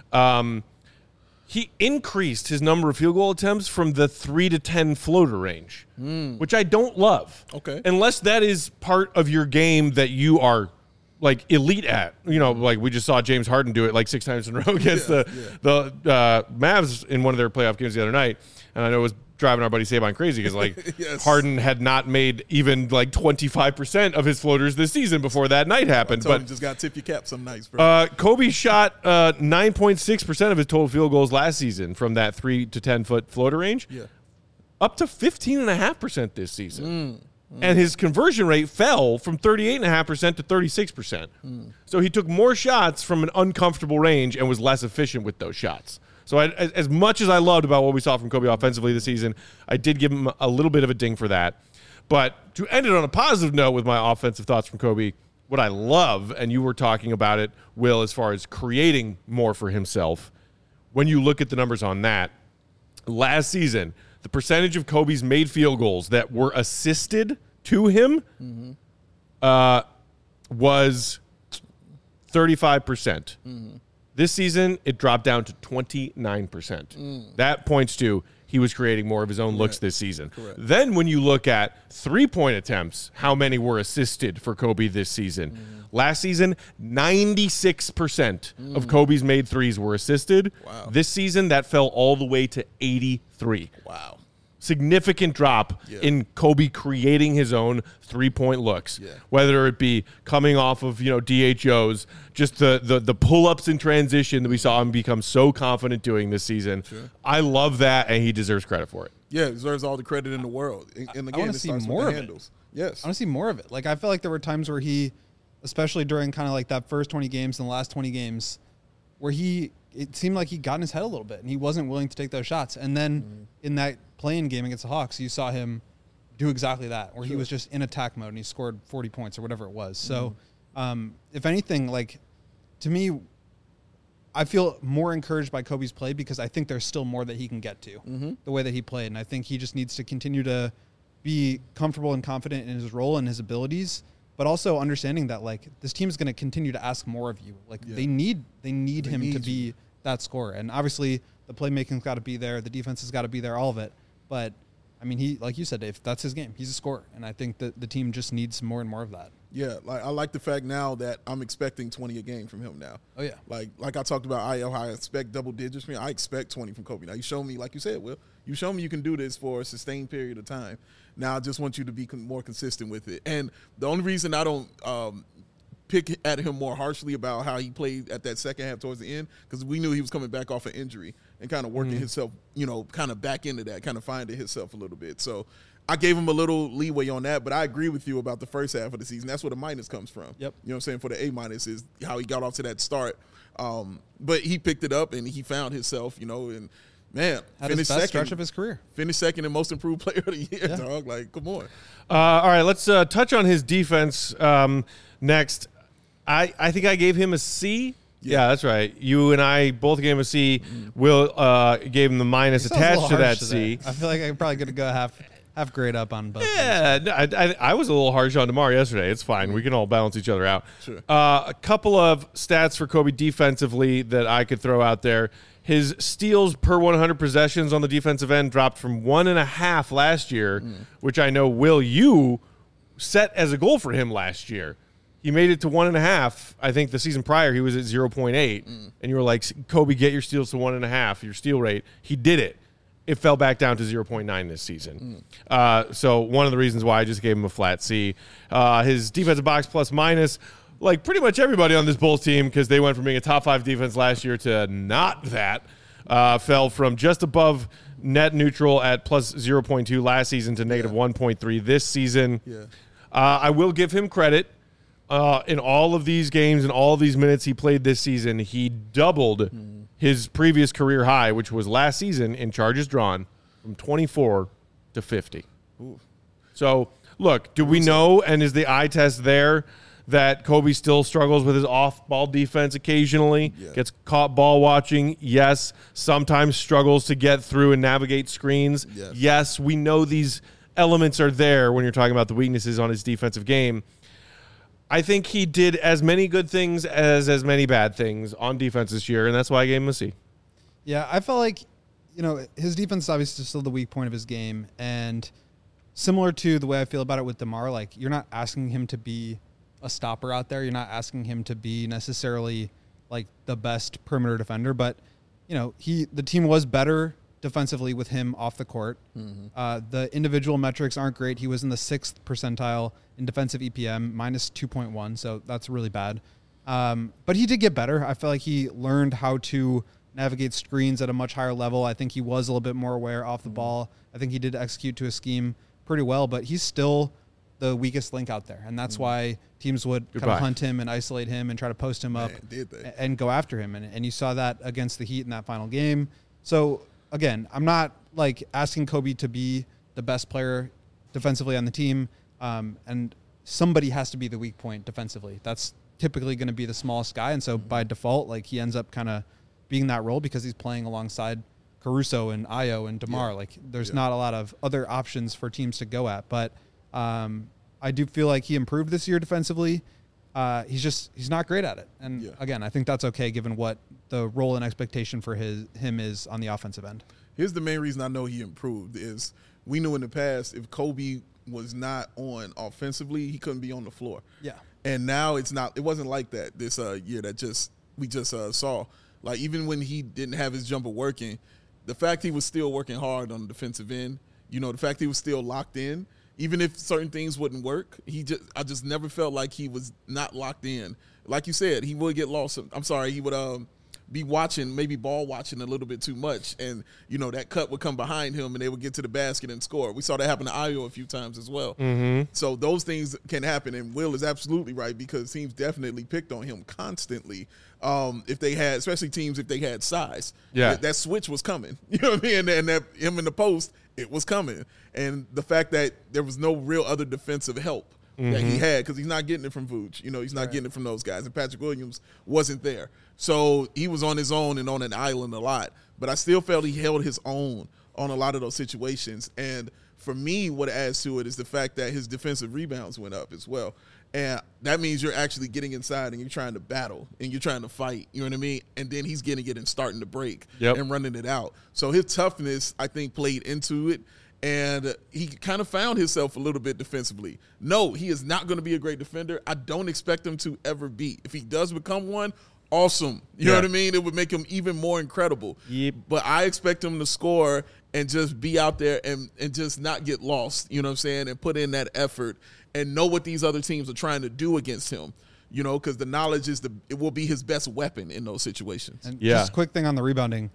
Speaker 1: He increased his number of field goal attempts from the 3 to 10 floater range, which I don't love.
Speaker 2: Okay.
Speaker 1: Unless that is part of your game that you are like elite at, like we just saw James Harden do it like 6 times in a row against the Mavs in one of their playoff games the other night. And I know it was driving our buddy Saban crazy because like Harden had not made even like 25% of his floaters this season before that night happened. But
Speaker 2: just got to tip your cap some nights, bro.
Speaker 1: Kobe shot 9.6% of his total field goals last season from that 3 to 10 foot floater range, up to 15.5% this season. And his conversion rate fell from 38.5% to 36%. So he took more shots from an uncomfortable range and was less efficient with those shots. So as much as I loved about what we saw from Kobe offensively this season, I did give him a little bit of a ding for that. But to end it on a positive note with my offensive thoughts from Kobe, what I love, and you were talking about it, Will, as far as creating more for himself, when you look at the numbers on that, last season, the percentage of Kobe's made field goals that were assisted to him was 35%. This season, it dropped down to 29%. That points to he was creating more of his own looks this season. Then when you look at 3-point attempts, how many were assisted for Kobe this season? Last season, 96% of Kobe's made threes were assisted. This season, that fell all the way to 83.
Speaker 2: Wow.
Speaker 1: Significant drop in Kobe creating his own 3-point looks, whether it be coming off of DHOs, just the pull-ups in transition that we saw him become so confident doing this season. I love that, and he deserves credit for it.
Speaker 2: Yeah, he deserves all the credit in the world. And again,
Speaker 4: I want to see more of it.
Speaker 2: Yes,
Speaker 4: I want to see more of it. Like I feel like there were times where he, especially during kind of like that first 20 games and the last 20 games, where it seemed like he got in his head a little bit and he wasn't willing to take those shots. And then in that playing game against the Hawks, you saw him do exactly that, where he was just in attack mode and he scored 40 points or whatever it was. So if anything, like to me, I feel more encouraged by Kobe's play because I think there's still more that he can get to the way that he played. And I think he just needs to continue to be comfortable and confident in his role and his abilities, but also understanding that like this team is going to continue to ask more of you. Like they need him to be that scorer. And obviously the playmaking's got to be there. The defense has got to be there, all of it. But I mean, he, like you said, Dave, that's his game. He's a scorer. And I think that the team just needs more and more of that.
Speaker 2: Yeah, like I like the fact now that I'm expecting 20 a game from him now.
Speaker 4: Oh yeah,
Speaker 2: like I talked about how I expect double digits from him. I expect 20 from Kobe. Now you show me, like you said, Will, you show me you can do this for a sustained period of time. Now I just want you to be more consistent with it. And the only reason I don't pick at him more harshly about how he played at that second half towards the end, because we knew he was coming back off an injury and kind of working himself, kind of back into that, kind of finding himself a little bit. So I gave him a little leeway on that, but I agree with you about the first half of the season. That's where the minus comes from. Yep. You know what I'm saying? For the A- is how he got off to that start. But he picked it up and he found himself, and man,
Speaker 4: had his best stretch of his career.
Speaker 2: Finished second and most improved player of the year, dog. Like, come on.
Speaker 1: All right, let's touch on his defense next. I think I gave him a C. Yeah, that's right. You and I both gave him a C. Will gave him the minus attached to that C.
Speaker 4: I feel like I'm probably going to go half grade up on both.
Speaker 1: Yeah, I was a little harsh on DeMar yesterday. It's fine. We can all balance each other out.
Speaker 2: Sure.
Speaker 1: A couple of stats for Kobe defensively that I could throw out there. His steals per 100 possessions on the defensive end dropped from 1.5 last year, which I know, Will, you set as a goal for him last year. He made it to 1.5. I think the season prior he was at 0.8. And you were like, Kobe, get your steals to 1.5, your steal rate. He did it. it fell back down to 0.9 this season. So one of the reasons why I just gave him a flat C. His defensive box plus minus, like pretty much everybody on this Bulls team, because they went from being a top 5 defense last year to not that, fell from just above net neutral at plus 0.2 last season to negative 1.3 this season.
Speaker 2: Yeah.
Speaker 1: I will give him credit. In all of these games and all of these minutes he played this season, he doubled his previous career high, which was last season in charges drawn, from 24 to 50.
Speaker 2: Ooh.
Speaker 1: So, look, do we know, and is the eye test there, that Kobe still struggles with his off-ball defense occasionally, gets caught ball watching? Yes. Sometimes struggles to get through and navigate screens? Yes, we know these elements are there when you're talking about the weaknesses on his defensive game. I think he did as many good things as many bad things on defense this year, and that's why I gave him a C.
Speaker 4: Yeah, I felt like, his defense is obviously still the weak point of his game, and similar to the way I feel about it with DeMar, like, you're not asking him to be a stopper out there. You're not asking him to be necessarily like the best perimeter defender, but the team was better defensively with him off the court. The individual metrics aren't great. He was in the 6th percentile in defensive EPM, minus 2.1, so that's really bad. But he did get better. I felt like he learned how to navigate screens at a much higher level. I think he was a little bit more aware off the ball. I think he did execute to a scheme pretty well, but he's still the weakest link out there, and that's why teams would kind of hunt him and isolate him and try to post him up and go after him. And you saw that against the Heat in that final game. So, again, I'm not like asking Kobe to be the best player defensively on the team, and somebody has to be the weak point defensively. That's typically going to be the smallest guy, and so by default, like, he ends up kind of being that role because he's playing alongside Caruso and Ayo and DeMar. Like, there's not a lot of other options for teams to go at, but I do feel like he improved this year defensively. He's not great at it. And again, I think that's okay given what the role and expectation for him is on the offensive end.
Speaker 2: Here's the main reason I know he improved is we knew in the past if Kobe was not on offensively, he couldn't be on the floor. Yeah. And now it wasn't like that this year that we just saw. Like, even when he didn't have his jumper working, the fact he was still working hard on the defensive end, the fact he was still locked in, even if certain things wouldn't work, I just never felt like he was not locked in. Like you said, he would get lost. He would be maybe ball watching a little bit too much, and that cut would come behind him, and they would get to the basket and score. We saw that happen to Ayo a few times as well. So those things can happen, and Will is absolutely right because teams definitely picked on him constantly. If they had, especially teams if they had size, that switch was coming. You know what I mean? And that him in the post, it was coming. And the fact that there was no real other defensive help that he had, because he's not getting it from Vooch. He's not getting it from those guys. And Patrick Williams wasn't there. So he was on his own and on an island a lot. But I still felt he held his own on a lot of those situations. And for me, what adds to it is the fact that his defensive rebounds went up as well. And that means you're actually getting inside and you're trying to battle and you're trying to fight. You know what I mean? And then he's getting it and starting to break and running it out. So his toughness, I think, played into it. And he kind of found himself a little bit defensively. No, he is not going to be a great defender. I don't expect him to ever be. If he does become one, awesome. You know what I mean? It would make him even more incredible. But I expect him to score and just be out there and just not get lost, you know what I'm saying, and put in that effort and know what these other teams are trying to do against him. Because the knowledge it will be his best weapon in those situations.
Speaker 4: And just a quick thing on the rebounding.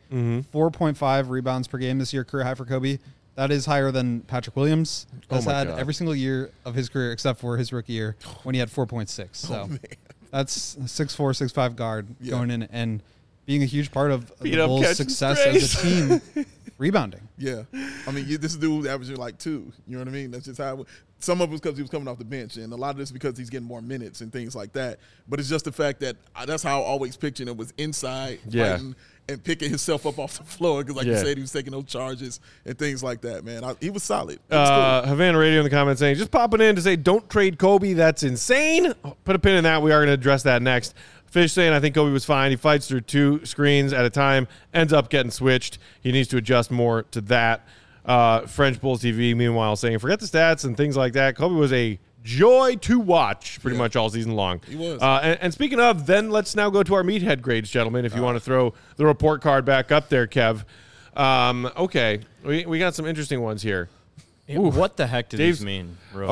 Speaker 4: 4.5 rebounds per game this year, career high for Kobe. That is higher than Patrick Williams has had every single year of his career except for his rookie year when he had 4.6. So that's a 6'4", 6'5" guard going in and being a huge part of the Bulls' success as a team rebounding.
Speaker 2: Yeah. I mean, this dude averaging like 2. You know what I mean? That's just how some of it was because he was coming off the bench, and a lot of this because he's getting more minutes and things like that. But it's just the fact that that's how I always pictured him, was inside fighting and picking himself up off the floor because, like you said, he was taking those charges and things like that, man. He was solid. Cool.
Speaker 1: Havana Radio in the comments saying, just popping in to say, don't trade Kobe. That's insane. Put a pin in that. We are going to address that next. Fish saying, I think Kobe was fine. He fights through 2 screens at a time, ends up getting switched. He needs to adjust more to that. French Bulls TV, meanwhile, saying, forget the stats and things like that. Kobe was a joy to watch pretty much all season long.
Speaker 2: He was.
Speaker 1: And speaking of, then let's now go to our meathead grades, gentlemen, if you want to throw the report card back up there, Kev. Okay, we got some interesting ones here.
Speaker 3: What the heck does
Speaker 1: Dave's-
Speaker 3: this mean?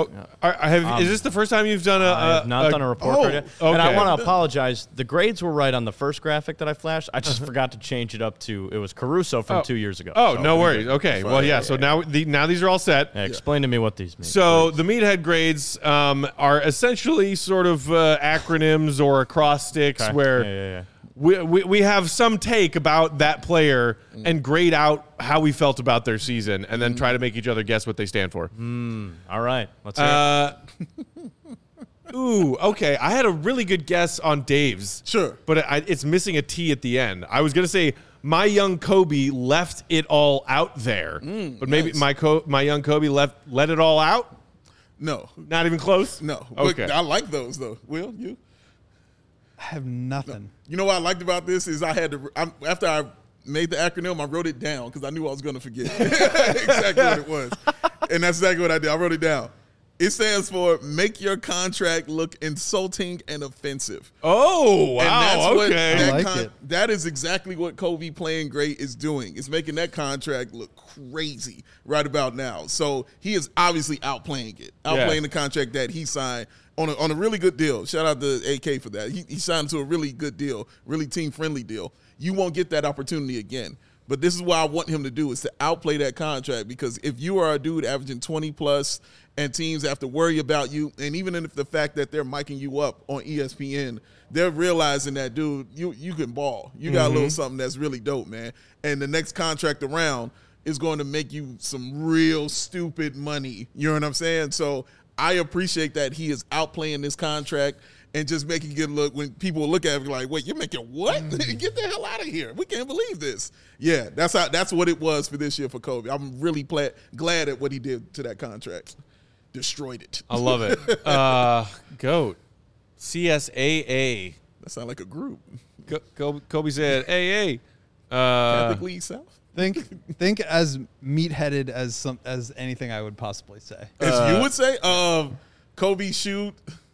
Speaker 1: Is this the first time you've done
Speaker 3: I have not done a report card yet. And I
Speaker 1: okay.
Speaker 3: want to apologize. The grades were right on the first graphic that I flashed. I just forgot to change it up to it was Caruso from 2 years ago.
Speaker 1: Oh,
Speaker 3: So-
Speaker 1: no worries. Okay, well, yeah. So now these are all set.
Speaker 3: Yeah, explain to me what these mean.
Speaker 1: So the meathead grades are essentially sort of acronyms or acrostics
Speaker 3: Okay.
Speaker 1: where
Speaker 3: Yeah.
Speaker 1: we have some take about that player and grade out how we felt about their season and then try to make each other guess what they stand for.
Speaker 3: All right. Let's hear it.
Speaker 1: Ooh, okay. I had a really good guess on Dave's.
Speaker 2: Sure.
Speaker 1: But it's missing a T at the end. I was going to say my young Kobe left it all out there. But maybe
Speaker 2: nice.
Speaker 1: my young Kobe let it all out?
Speaker 2: No.
Speaker 1: Not even close?
Speaker 2: No.
Speaker 1: Okay.
Speaker 2: But I like those, though. Will, you?
Speaker 4: I have nothing.
Speaker 2: You know what I liked about this is after I made the acronym, I wrote it down because I knew I was going to forget exactly what it was. And that's exactly what I did. I wrote it down. It stands for make your contract look insulting and offensive.
Speaker 1: Oh, wow.
Speaker 2: And that's what
Speaker 1: okay.
Speaker 2: that
Speaker 4: I like it.
Speaker 2: that is exactly what Kobe playing great is doing. It's making that contract look crazy right about now. So he is obviously outplaying the contract that he signed on a really good deal. Shout out to AK for that. He signed to a really good deal, really team-friendly deal. You won't get that opportunity again. But this is what I want him to do is to outplay that contract because if you are a dude averaging 20-plus and teams have to worry about you, and even if the fact that they're miking you up on ESPN, they're realizing that, dude, you can ball. You got a little something that's really dope, man. And the next contract around is going to make you some real stupid money. You know what I'm saying? So I appreciate that he is outplaying this contract and just making it look when people look at it like, wait, you're making what? Get the hell out of here. We can't believe this. Yeah, that's what it was for this year for Kobe. I'm really glad at what he did to that contract. Destroyed it.
Speaker 1: I love it. GOAT. CSAA.
Speaker 2: That sounds like a group.
Speaker 1: Kobe said, hey.
Speaker 2: Catholic League South?
Speaker 4: Think as meat-headed as anything I would possibly say.
Speaker 2: As you would say, Kobe shoot.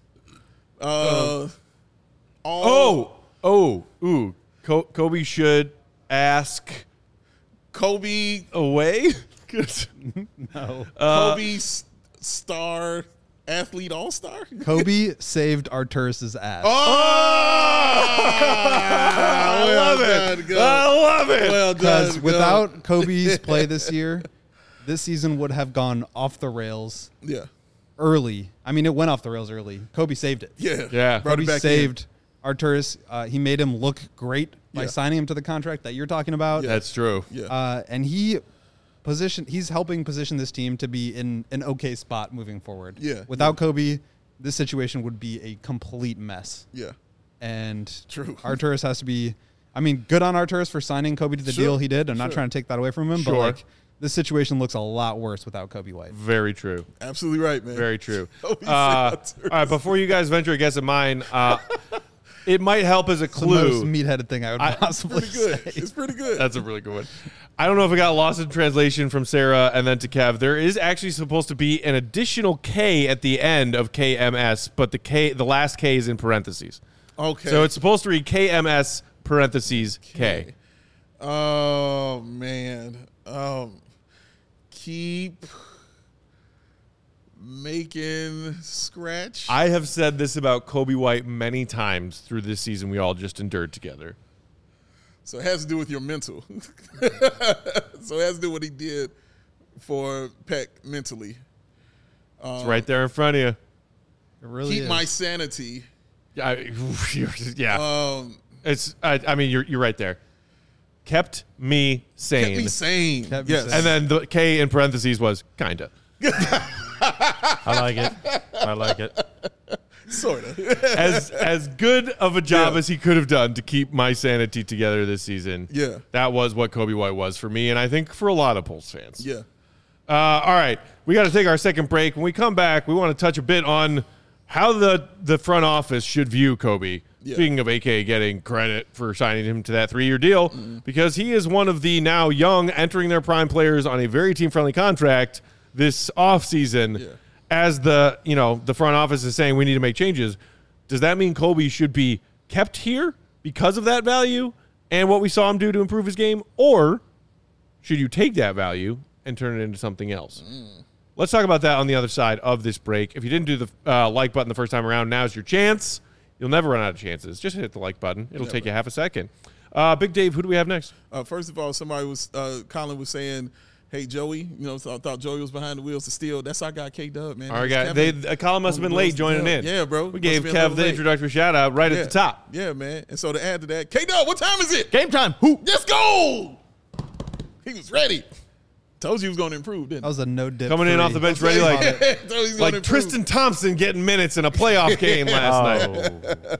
Speaker 1: Kobe should ask
Speaker 2: Kobe
Speaker 1: away.
Speaker 4: No.
Speaker 2: Kobe star athlete all-star.
Speaker 4: Kobe saved Arturus' ass.
Speaker 1: I love it.
Speaker 2: Done,
Speaker 1: I love it.
Speaker 2: Well
Speaker 4: Because
Speaker 2: done.
Speaker 4: without Kobe's play this year, this season would have gone off the rails
Speaker 2: Yeah.
Speaker 4: early. I mean, it went off the rails early. Kobe saved it.
Speaker 2: Yeah. Brought
Speaker 4: Kobe
Speaker 2: it back
Speaker 4: saved Arturus. He made him look great by
Speaker 2: Yeah.
Speaker 4: signing him to the contract that you're talking about.
Speaker 1: That's true.
Speaker 2: in. Yeah.
Speaker 4: And he's helping position this team to be in an okay spot moving forward.
Speaker 2: Yeah.
Speaker 4: Without Kobe, this situation would be a complete mess.
Speaker 2: Yeah.
Speaker 4: And
Speaker 2: True.
Speaker 4: Arturus has to be, I mean, good on Arturus for signing Kobe to the
Speaker 2: Sure.
Speaker 4: deal he did. I'm not
Speaker 2: Sure.
Speaker 4: trying to take that away from him,
Speaker 1: Sure.
Speaker 4: but like this situation looks a lot worse without Kobe White.
Speaker 1: Very true.
Speaker 2: Absolutely right, man.
Speaker 1: Very true.
Speaker 2: Kobe
Speaker 1: All
Speaker 2: saved
Speaker 1: right, before you guys venture a guess at mine, it might help as a
Speaker 4: It's the most
Speaker 1: clue.
Speaker 4: meat-headed thing I would possibly
Speaker 2: Pretty good.
Speaker 4: say.
Speaker 2: It's pretty good.
Speaker 1: That's a really good one. I don't know if it got lost in translation from Sarah and then to Kev. There is actually supposed to be an additional K at the end of KMS, but the last K is in parentheses.
Speaker 2: Okay.
Speaker 1: So it's supposed to read KMS parentheses K.
Speaker 2: Oh man. Keep making scratch.
Speaker 1: I have said this about Kobe White many times through this season we all just endured together.
Speaker 2: So it has to do with your mental. So it has to do with what he did for Peck mentally.
Speaker 1: It's right there in front of you.
Speaker 4: It really
Speaker 2: Keep
Speaker 4: is.
Speaker 2: my sanity.
Speaker 1: Yeah.
Speaker 2: Um,
Speaker 1: It's. I mean, you're right there. Kept me sane.
Speaker 2: kept me sane.
Speaker 4: Kept me
Speaker 2: Yes.
Speaker 4: sane.
Speaker 1: And then the K in parentheses was kinda.
Speaker 3: I like it. I like it.
Speaker 2: Sort of.
Speaker 1: As good of a job
Speaker 2: Yeah.
Speaker 1: as he could have done to keep my sanity together this season.
Speaker 2: Yeah.
Speaker 1: That was what Kobe White was for me, and I think for a lot of Bulls fans.
Speaker 2: Yeah.
Speaker 1: All right, we got to take our second break. When we come back, we want to touch a bit on how the front office should view Kobe.
Speaker 2: Yeah.
Speaker 1: Speaking of AK getting credit for signing him to that 3-year deal, because he is one of the now young, entering their prime players on a very team-friendly contract this offseason.
Speaker 2: Yeah.
Speaker 1: As the front office is saying we need to make changes, does that mean Kobe should be kept here because of that value and what we saw him do to improve his game? Or should you take that value and turn it into something else? Let's talk about that on the other side of this break. If you didn't do the like button the first time around, now's your chance. You'll never run out of chances. Just hit the like button. It'll take you half a second. Big Dave, who do we have next?
Speaker 2: First of all, Colin was saying, hey, Joey, thought Joey was behind the wheels of steel. That's our guy, K-Dub, man.
Speaker 1: Our guy. Colin must have been late joining in.
Speaker 2: Yeah, bro.
Speaker 1: We gave Kev the introductory shout-out right at the top.
Speaker 2: Yeah, man. And so to add to that, K-Dub, what time is it?
Speaker 3: Game time. Who?
Speaker 2: Let's go! He was ready. Told you he was going to improve, didn't
Speaker 4: That was a no dip.
Speaker 1: Coming in off the bench ready like Tristan Thompson getting minutes in a playoff game last night.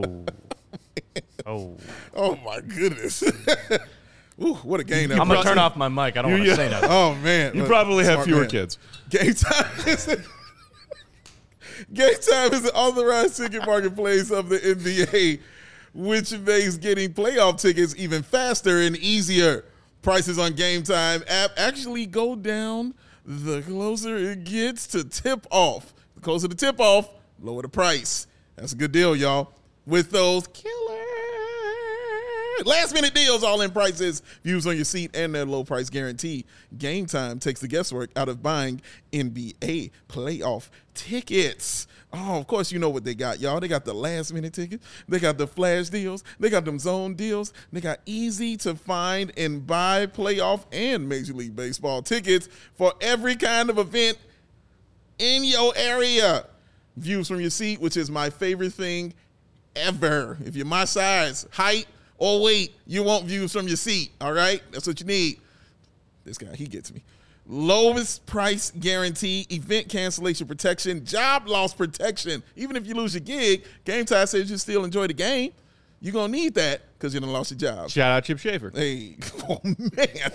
Speaker 2: Oh, my goodness. Ooh, what a game that
Speaker 3: I'm going to turn off my mic. I don't want to say nothing.
Speaker 2: Oh, man.
Speaker 1: You probably have fewer kids.
Speaker 2: Game time is the authorized ticket marketplace of the NBA, which makes getting playoff tickets even faster and easier. Prices on Game Time app actually go down the closer it gets to tip off. The closer the tip off, lower the price. That's a good deal, y'all. With those killer last-minute deals, all-in prices, views on your seat, and that low-price guarantee. Game Time takes the guesswork out of buying NBA playoff tickets. Oh, of course, you know what they got, y'all. They got the last-minute tickets. They got the flash deals. They got them zone deals. They got easy-to-find and buy playoff and Major League Baseball tickets for every kind of event in your area. Views from your seat, which is my favorite thing ever. If you're my size, height, or weight, you want views from your seat, all right? That's what you need. This guy, he gets me. Lowest price guarantee, event cancellation protection, job loss protection. Even if you lose your gig, Game Time says you still enjoy the game. You're going to need that because you done lost your job.
Speaker 1: Shout out Chip Schaefer.
Speaker 2: Hey, oh, man.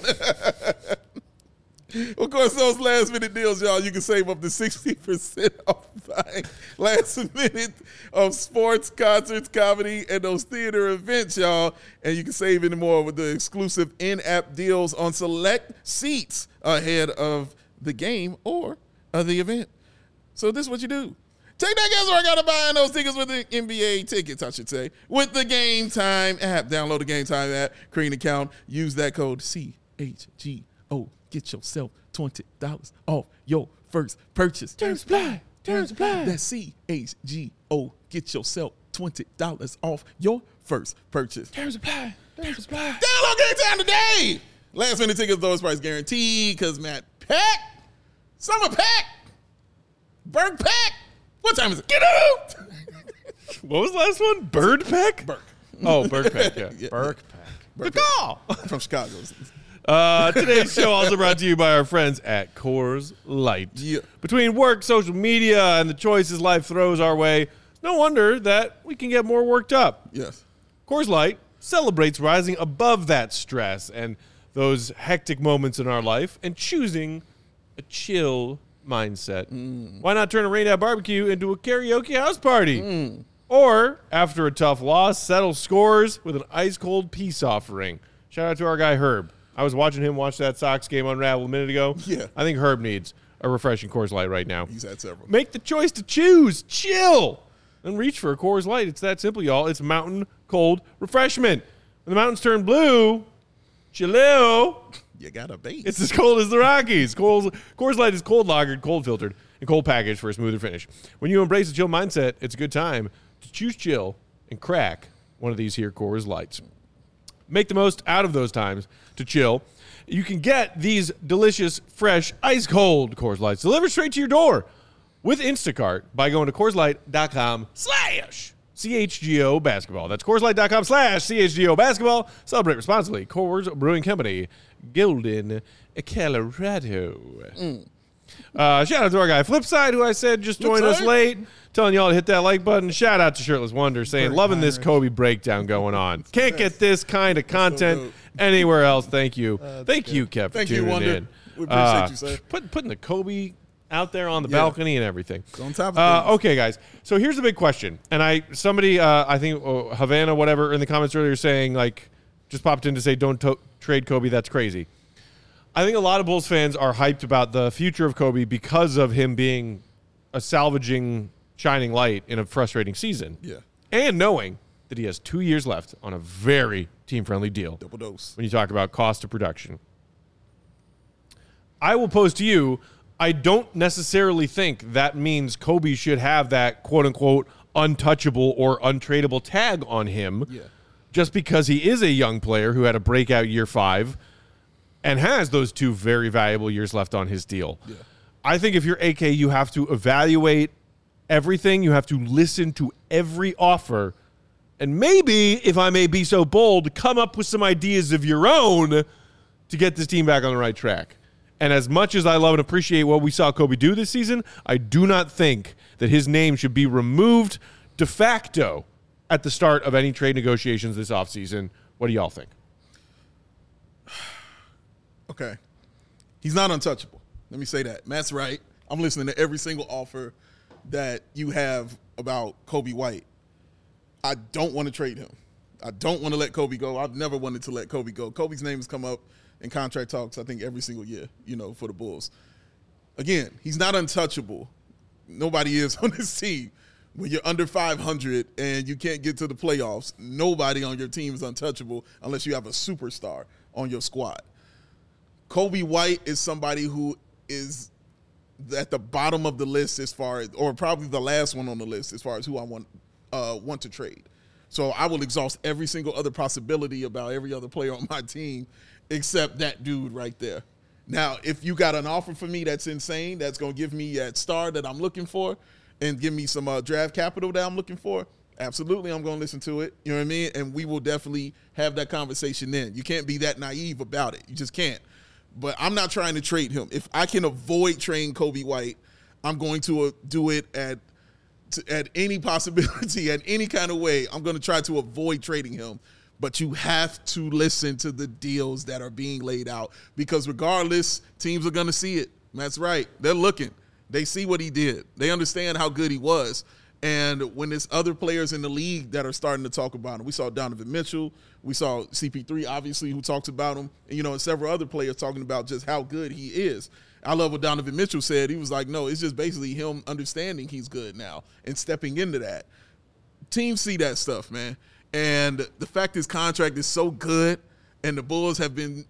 Speaker 2: Of course, those last-minute deals, y'all, you can save up to 60% off buying last minute of sports, concerts, comedy, and those theater events, y'all. And you can save any more with the exclusive in-app deals on select seats ahead of the game or the event. So this is what you do. Take that guesswork out of buying those tickets with the NBA tickets, I should say, with the Game Time app. Download the Game Time app, create an account, use that code CHGO. Get yourself $20 off your first purchase. Terms apply. Terms apply. That's CHGO. Get yourself $20 off your first purchase. Terms apply. Terms apply. Download Game Time today. Last minute tickets, lowest price guaranteed. Because Matt Pack, Summer Pack, Berg Pack. What time is it? Get out.
Speaker 1: What was the last one? Bird Peck?
Speaker 2: Burke.
Speaker 1: Oh, Bird Peck, yeah.
Speaker 3: Burke Pack.
Speaker 1: The call.
Speaker 2: From Chicago.
Speaker 1: Today's show also brought to you by our friends at Coors Light.
Speaker 2: Yeah.
Speaker 1: Between work, social media, and the choices life throws our way, it's no wonder that we can get more worked up.
Speaker 2: Yes.
Speaker 1: Coors Light celebrates rising above that stress and those hectic moments in our life and choosing a chill mindset. Why not turn a rain out barbecue into a karaoke house party? Or, after a tough loss, settle scores with an ice-cold peace offering. Shout out to our guy Herb. I was watching him watch that Sox game unravel a minute ago.
Speaker 2: Yeah.
Speaker 1: I think Herb needs a refreshing Coors Light right now.
Speaker 2: He's had several.
Speaker 1: Make the choice to choose. Chill. And reach for a Coors Light. It's that simple, y'all. It's mountain cold refreshment. When the mountains turn blue, chill.
Speaker 2: You got a base.
Speaker 1: It's as cold as the Rockies. Coors Light is cold lagered, cold filtered, and cold packaged for a smoother finish. When you embrace a chill mindset, it's a good time to choose chill and crack one of these here Coors Lights. Make the most out of those times to chill. You can get these delicious, fresh, ice-cold Coors Lights delivered straight to your door with Instacart by going to CoorsLight.com/CHGO basketball. That's CoorsLight.com/CHGO basketball. Celebrate responsibly. Coors Brewing Company, Golden, Colorado. Shout out to our guy Flipside, who I said just joined us late. Telling y'all to hit that like button. Shout out to Shirtless Wonder saying, loving this Kobe breakdown going on. Can't get this kind of content anywhere else. Thank you. Thank you, Kev, for tuning in.
Speaker 2: We appreciate you, sir.
Speaker 1: Putting the Kobe out there on the balcony and everything.
Speaker 2: It's on top of things.
Speaker 1: Okay, guys. So here's the big question. And somebody, I think Havana, whatever, in the comments earlier saying, like, just popped in to say, don't trade Kobe. That's crazy. I think a lot of Bulls fans are hyped about the future of Kobe because of him being a salvaging shining light in a frustrating season.
Speaker 2: Yeah.
Speaker 1: And knowing that he has 2 years left on a very team-friendly deal.
Speaker 2: Double dose.
Speaker 1: When you talk about cost of production. I will pose to you, I don't necessarily think that means Kobe should have that quote-unquote untouchable or untradeable tag on him just because he is a young player who had a breakout year 5 and has those 2 very valuable years left on his deal. Yeah. I think if you're AK, you have to evaluate everything. You have to listen to every offer. And maybe, if I may be so bold, come up with some ideas of your own to get this team back on the right track. And as much as I love and appreciate what we saw Kobe do this season, I do not think that his name should be removed de facto at the start of any trade negotiations this offseason. What do y'all think?
Speaker 2: Okay. He's not untouchable. Let me say that. Matt's right. I'm listening to every single offer that you have about Kobe White. I don't want to trade him. I don't want to let Kobe go. I've never wanted to let Kobe go. Kobe's name has come up in contract talks, I think, every single year, for the Bulls. Again, he's not untouchable. Nobody is on this team. When you're under 500 and you can't get to the playoffs, nobody on your team is untouchable unless you have a superstar on your squad. Kobe White is somebody who is at the bottom of the list as far as, or probably the last one on the list as far as who I want to trade. So I will exhaust every single other possibility about every other player on my team except that dude right there. Now, if you got an offer for me that's insane, that's going to give me that star that I'm looking for and give me some draft capital that I'm looking for, absolutely I'm going to listen to it. You know what I mean? And we will definitely have that conversation then. You can't be that naive about it. You just can't. But I'm not trying to trade him. If I can avoid trading Kobe White, I'm going to do it at any possibility, at any kind of way. I'm going to try to avoid trading him. But you have to listen to the deals that are being laid out because regardless, teams are going to see it. That's right. They're looking. They see what he did. They understand how good he was. And when there's other players in the league that are starting to talk about him, we saw Donovan Mitchell, we saw CP3, obviously, who talks about him, and several other players talking about just how good he is. I love what Donovan Mitchell said. He was like, no, it's just basically him understanding he's good now and stepping into that. Teams see that stuff, man. And the fact his contract is so good and the Bulls have been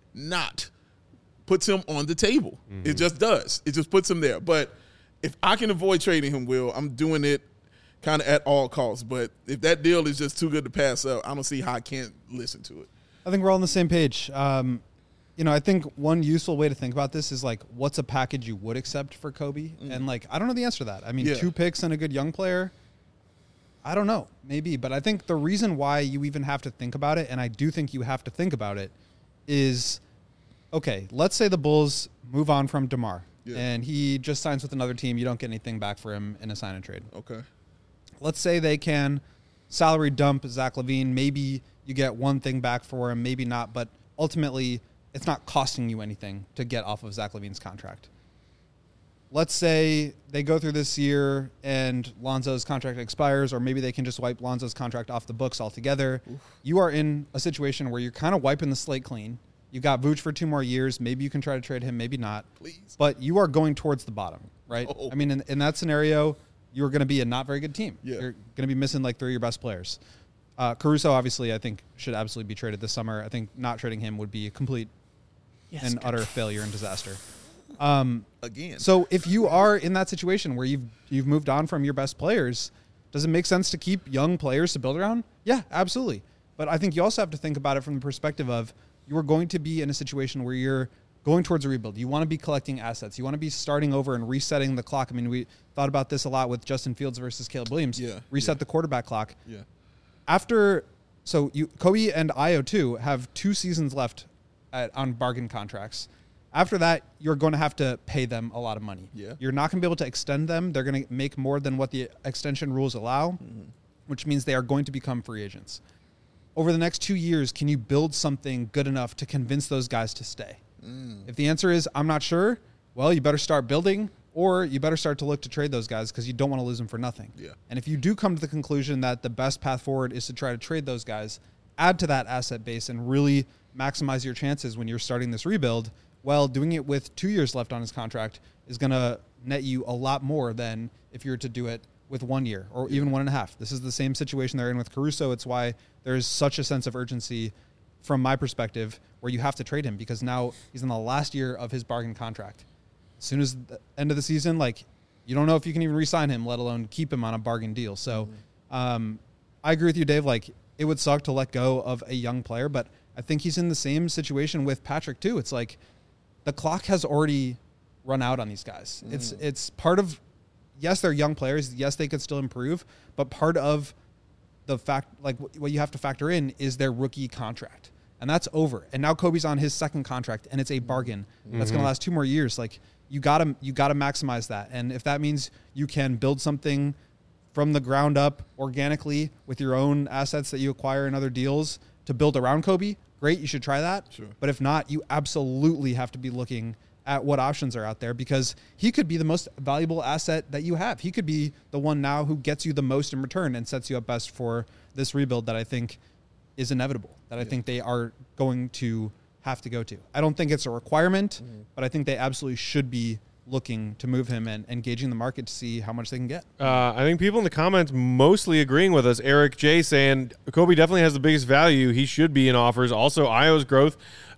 Speaker 2: puts him on the table. Mm-hmm. It just does. It just puts him there. But if I can avoid trading him, Will, I'm doing it kind of at all costs. But if that deal is just too good to pass up, I don't see how I can't listen to it.
Speaker 4: I think we're all on the same page. I think one useful way to think about this is like, what's a package you would accept for Kobe? Mm-hmm. And I don't know the answer to that. I mean, 2 picks and a good young player, I don't know, maybe. But I think the reason why you even have to think about it, and I do think you have to think about it, is, okay, let's say the Bulls move on from DeMar, and he just signs with another team. You don't get anything back for him in a sign and trade.
Speaker 2: Okay.
Speaker 4: Let's say they can salary dump Zach LaVine. Maybe you get one thing back for him, maybe not, but ultimately it's not costing you anything to get off of Zach LaVine's contract. Let's say they go through this year and Lonzo's contract expires, or maybe they can just wipe Lonzo's contract off the books altogether. Oof. You are in a situation where you're kind of wiping the slate clean. You got Vooch for 2 more years. Maybe you can try to trade him, maybe not.
Speaker 2: Please.
Speaker 4: But you are going towards the bottom, right? Oh. I mean, in that scenario, you're going to be a not very good team. Yeah. You're going to be missing 3 of your best players. Caruso, obviously, I think should absolutely be traded this summer. I think not trading him would be a complete and utter failure and disaster.
Speaker 2: Again.
Speaker 4: So if you are in that situation where you've moved on from your best players, does it make sense to keep young players to build around? Yeah, absolutely. But I think you also have to think about it from the perspective of you are going to be in a situation where you're going towards a rebuild. You want to be collecting assets. You want to be starting over and resetting the clock. I mean, we thought about this a lot with Justin Fields versus Caleb Williams. Reset the quarterback clock. Kobe and Io too have 2 seasons left on bargain contracts. After that, you're going to have to pay them a lot of money. Yeah. You're not going to be able to extend them. They're going to make more than what the extension rules allow, which means they are going to become free agents. Over the next 2 years, can you build something good enough to convince those guys to stay? If the answer is, I'm not sure, well, you better start building, or you better start to look to trade those guys because you don't want to lose them for nothing. Yeah. And if you do come to the conclusion that the best path forward is to try to trade those guys, add to that asset base and really maximize your chances when you're starting this rebuild, well, doing it with 2 years left on his contract is going to net you a lot more than if you were to do it with 1 year or even 1.5. This is the same situation they're in with Caruso. It's why there's such a sense of urgency from my perspective, where you have to trade him because now he's in the last year of his bargain contract. As soon as the end of the season, like, you don't know if you can even re-sign him, let alone keep him on a bargain deal. So I agree with you, Dave. Like, it would suck to let go of a young player, but I think he's in the same situation with Patrick too. It's like the clock has already run out on these guys. It's part of, yes, they're young players. Yes, they could still improve, but part of the fact, like, what you have to factor in is their rookie contract, and that's over. And now Kobe's on his second contract, and it's a bargain that's going to last 2 more years. Like, you gotta maximize that. And if that means you can build something from the ground up organically with your own assets that you acquire in other deals to build around Kobe, great, you should try that.
Speaker 2: Sure.
Speaker 4: But if not, you absolutely have to be looking at what options are out there, because he could be the most valuable asset that you have. He could be the one now who gets you the most in return and sets you up best for this rebuild that I think is inevitable, that I think they are going to have to go to. I don't think it's a requirement, but I think they absolutely should be looking to move him and engaging the market to see how much they can get.
Speaker 1: I think people in the comments mostly agreeing with us. Eric J saying Kobe definitely has the biggest value. He should be in offers. Also, Ayo's growth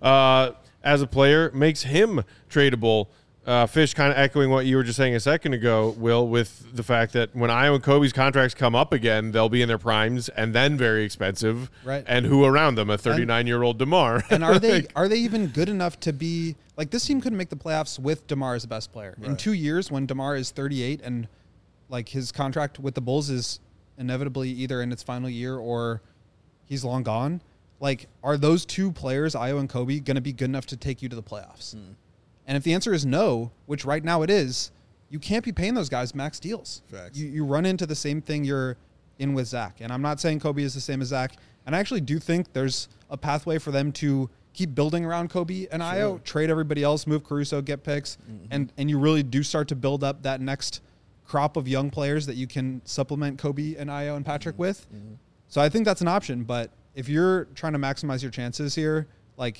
Speaker 1: as a player makes him tradable. Fish kind of echoing what you were just saying a second ago, Will, with the fact that when Ayo and Kobe's contracts come up again, they'll be in their primes and then very expensive.
Speaker 4: Right.
Speaker 1: And who around them? A 39-year-old DeMar.
Speaker 4: And are they even good enough to be like, this team couldn't make the playoffs with DeMar as the best player. Right. In 2 years, when DeMar is 38 and like his contract with the Bulls is inevitably either in its final year or he's long gone. Like, are those two players, Ayo and Kobe, going to be good enough to take you to the playoffs? And if the answer is no, which right now it is, you can't be paying those guys max deals.
Speaker 2: Facts.
Speaker 4: You run into the same thing you're in with Zach. And I'm not saying Kobe is the same as Zach. And I actually do think there's a pathway for them to keep building around Kobe and Ayo, trade everybody else, move Caruso, get picks, and you really do start to build up that next crop of young players that you can supplement Kobe and Ayo and Patrick with. So I think that's an option. But if you're trying to maximize your chances here, like,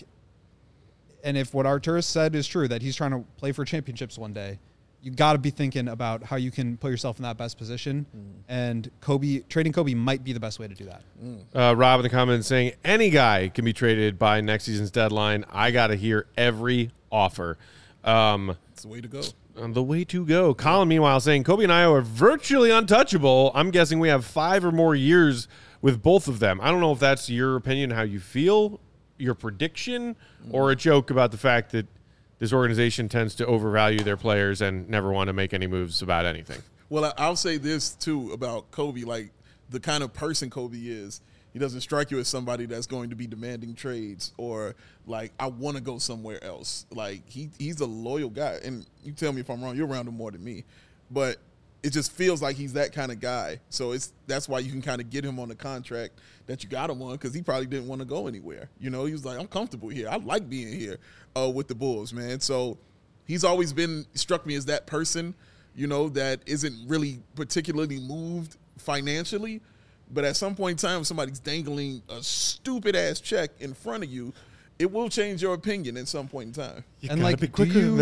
Speaker 4: and if what Arturas said is true, that he's trying to play for championships one day, you got to be thinking about how you can put yourself in that best position. And trading Kobe might be the best way to do that.
Speaker 1: Rob in the comments saying any guy can be traded by next season's deadline. I got to hear every offer.
Speaker 2: It's the way to go.
Speaker 1: The way to go. Colin, meanwhile, saying Kobe and Ayo are virtually untouchable. I'm guessing we have 5 or more years with both of them. I don't know if that's your opinion, how you feel, your prediction, or a joke about the fact that this organization tends to overvalue their players and never want to make any moves about anything.
Speaker 2: Well, I'll say this, too, about Kobe. Like, the kind of person Kobe is, he doesn't strike you as somebody that's going to be demanding trades or, like, I want to go somewhere else. Like, he's a loyal guy. And you tell me if I'm wrong. You're around him more than me. But it just feels like he's that kind of guy. So that's why you can kind of get him on the contract that you got him on, because he probably didn't want to go anywhere. You know, he was like, I'm comfortable here. I like being here with the Bulls, man. So he's always struck me as that person, you know, that isn't really particularly moved financially. But at some point in time, if somebody's dangling a stupid-ass check in front of you, it will change your opinion at some point in time.
Speaker 1: You and gotta be quicker than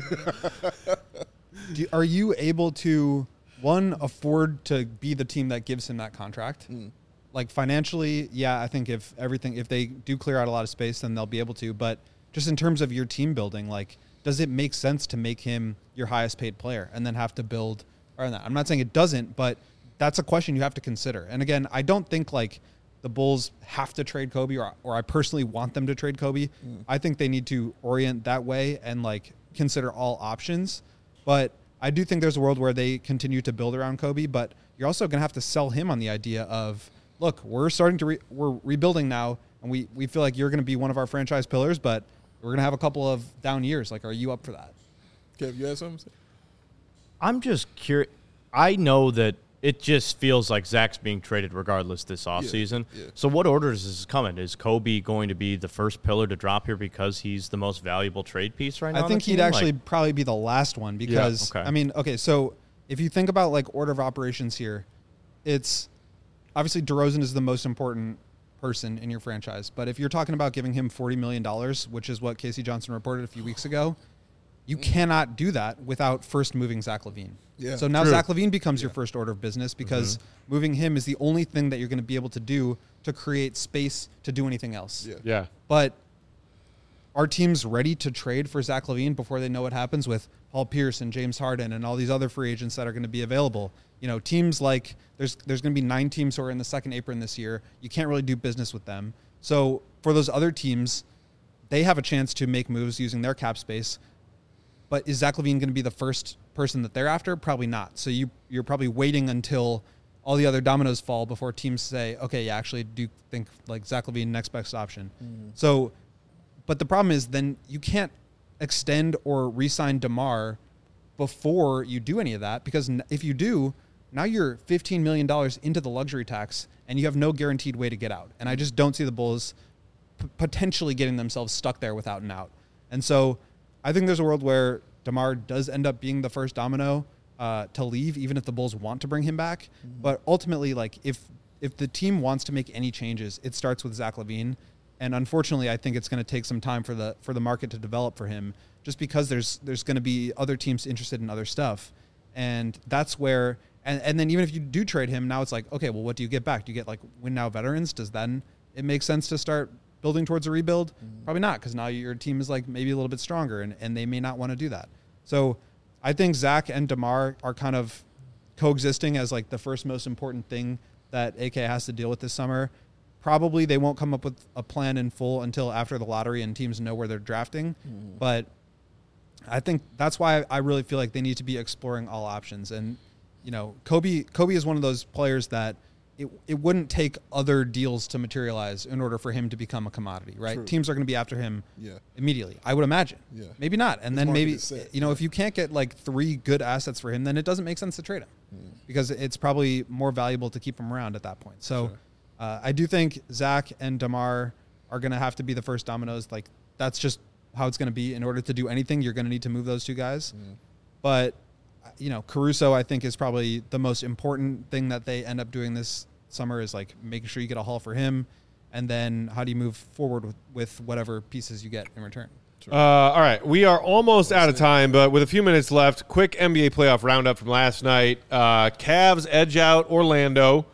Speaker 1: that.
Speaker 4: Are you able to, one, afford to be the team that gives him that contract? Like, financially, yeah, I think if they do clear out a lot of space, then they'll be able to. But just in terms of your team building, like, does it make sense to make him your highest paid player and then have to build around that? I'm not saying it doesn't, but that's a question you have to consider. And again, I don't think like the Bulls have to trade Kobe or I personally want them to trade Kobe. I think they need to orient that way and like consider all options. But I do think there's a world where they continue to build around Kobe, but you're also going to have to sell him on the idea of, look, we're starting to we're rebuilding now, and we feel like you're going to be one of our franchise pillars, but we're going to have a couple of down years. Like, are you up for that?
Speaker 2: Kev, you have something to say?
Speaker 3: I'm just curious. I know that it just feels like Zach's being traded regardless this offseason.
Speaker 2: Yeah.
Speaker 3: So what order is this coming? Is Kobe going to be the first pillar to drop here because he's the most valuable trade piece right now?
Speaker 4: I think he'd actually probably be the last one because,
Speaker 3: okay.
Speaker 4: I mean, okay, so if you think about like order of operations here, it's obviously DeRozan is the most important person in your franchise. But if you're talking about giving him $40 million, which is what Casey Johnson reported a few weeks ago, You cannot do that without first moving Zach LaVine.
Speaker 2: Yeah,
Speaker 4: so now
Speaker 1: true.
Speaker 4: Zach LaVine becomes your first order of business because moving him is the only thing that you're going to be able to do to create space to do anything else.
Speaker 1: Yeah.
Speaker 4: But are teams ready to trade for Zach LaVine before they know what happens with Paul Pierce and James Harden and all these other free agents that are going to be available? You know, teams like there's going to be 9 teams who are in the second apron this year. You can't really do business with them. So for those other teams, they have a chance to make moves using their cap space. But is Zach LaVine going to be the first person that they're after? Probably not. So you're probably waiting until all the other dominoes fall before teams say, okay, yeah, actually do think like Zach LaVine next best option. So, but the problem is then you can't extend or re-sign DeMar before you do any of that, because if you do, now you're $15 million into the luxury tax and you have no guaranteed way to get out. And I just don't see the Bulls potentially getting themselves stuck there without an out. And so I think there's a world where DeMar does end up being the first domino to leave, even if the Bulls want to bring him back. But ultimately, like if the team wants to make any changes, it starts with Zach LaVine. And unfortunately, I think it's going to take some time for the market to develop for him, just because there's going to be other teams interested in other stuff. And that's where, and then even if you do trade him, now it's like, okay, well, what do you get back? Do you get like win now veterans? Does then it make sense to start building towards a rebuild? Probably not, because now your team is like maybe a little bit stronger and they may not want to do that. So I think Zach and DeMar are kind of coexisting as like the first most important thing that AK has to deal with this summer. Probably they won't come up with a plan in full until after the lottery and teams know where they're drafting. But I think that's why I really feel like they need to be exploring all options. And, you know, Kobe is one of those players that it wouldn't take other deals to materialize in order for him to become a commodity, right?
Speaker 2: True.
Speaker 4: Teams are going to be after him immediately, I would imagine.
Speaker 2: Yeah.
Speaker 4: Maybe not. And
Speaker 2: His
Speaker 4: then
Speaker 2: market
Speaker 4: maybe,
Speaker 2: is set.
Speaker 4: you know, if you can't get like 3 good assets for him, then it doesn't make sense to trade him because it's probably more valuable to keep him around at that point. So I do think Zach and DeMar are going to have to be the first dominoes. Like that's just how it's going to be. In order to do anything, you're going to need to move those 2 guys. But, you know, Caruso, I think, is probably the most important thing that they end up doing this summer is like making sure you get a haul for him. And then how do you move forward with whatever pieces you get in return?
Speaker 1: All right, we are almost out of time, but with a few minutes left, quick NBA playoff roundup from last night. Cavs edge out Orlando.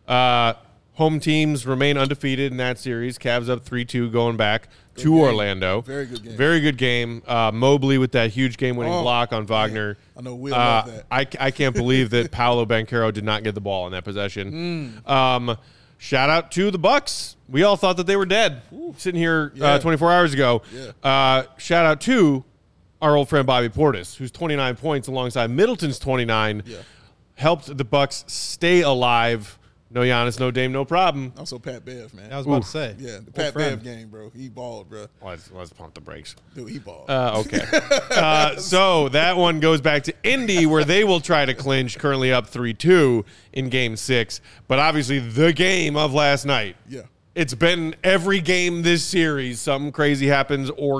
Speaker 1: Home teams remain undefeated in that series. Cavs up 3-2 going back to
Speaker 2: game.
Speaker 1: Orlando.
Speaker 2: Very good game.
Speaker 1: Very good game. Mobley with that huge game-winning block on Wagner.
Speaker 2: I know Will love that.
Speaker 1: I can't believe that Paolo Banchero did not get the ball in that possession. Shout out to the Bucks. We all thought that they were dead sitting here 24 hours ago. Shout out to our old friend Bobby Portis, who's 29 points alongside Middleton's 29, helped the Bucks stay alive. No Giannis, no Dame, no problem.
Speaker 2: Also Pat Bev, man.
Speaker 4: I was about to say.
Speaker 2: Yeah, the Pat Bev game, bro. He balled, bro.
Speaker 1: Let's pump the brakes.
Speaker 2: Dude, he balled.
Speaker 1: Okay. So that one goes back to Indy, where they will try to clinch, currently up 3-2 in Game 6. But obviously the game of last night.
Speaker 2: Yeah.
Speaker 1: It's been every game this series. Something crazy happens or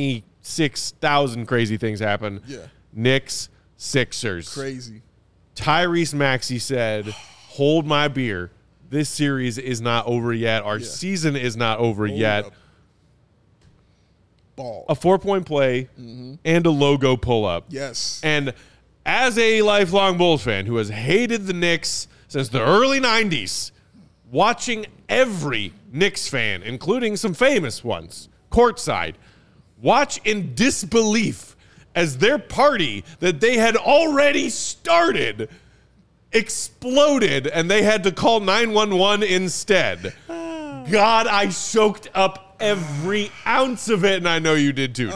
Speaker 1: 26,000 crazy things happen.
Speaker 2: Yeah.
Speaker 1: Knicks, Sixers.
Speaker 2: Crazy.
Speaker 1: Tyrese Maxey said, hold my beer. This series is not over yet. Our season is not over yet.
Speaker 2: Up. Ball.
Speaker 1: A 4-point play and a logo pull-up.
Speaker 2: Yes.
Speaker 1: And as a lifelong Bulls fan who has hated the Knicks since the early 90s, watching every Knicks fan, including some famous ones, courtside, watch in disbelief as their party that they had already started exploded and they had to call 911 instead. God, I soaked up every ounce of it, and I know you did too, Dave.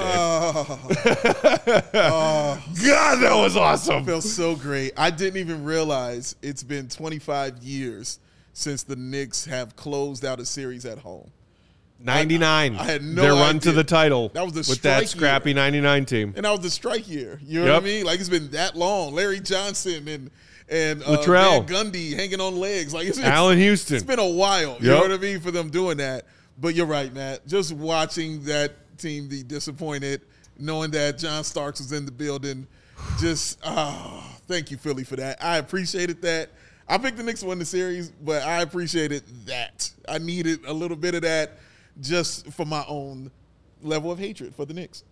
Speaker 1: God, that was awesome.
Speaker 2: It felt so great. I didn't even realize it's been 25 years since the Knicks have closed out a series at home.
Speaker 1: 99.
Speaker 2: I had no
Speaker 1: Their run
Speaker 2: idea.
Speaker 1: to the title.
Speaker 2: That was the
Speaker 1: with that
Speaker 2: strike
Speaker 1: scrappy
Speaker 2: year.
Speaker 1: 99 team.
Speaker 2: And that was the strike year. You know what I mean? Like, it's been that long. Larry Johnson and
Speaker 1: Latrell.
Speaker 2: Van Gundy hanging on legs. Like, it's
Speaker 1: Allen Houston.
Speaker 2: It's been a while. You know what I mean? For them doing that. But you're right, Matt. Just watching that team be disappointed, knowing that John Starks was in the building, just, thank you, Philly, for that. I appreciated that. I picked the Knicks to win the series, but I appreciated that. I needed a little bit of that just for my own level of hatred for the Knicks.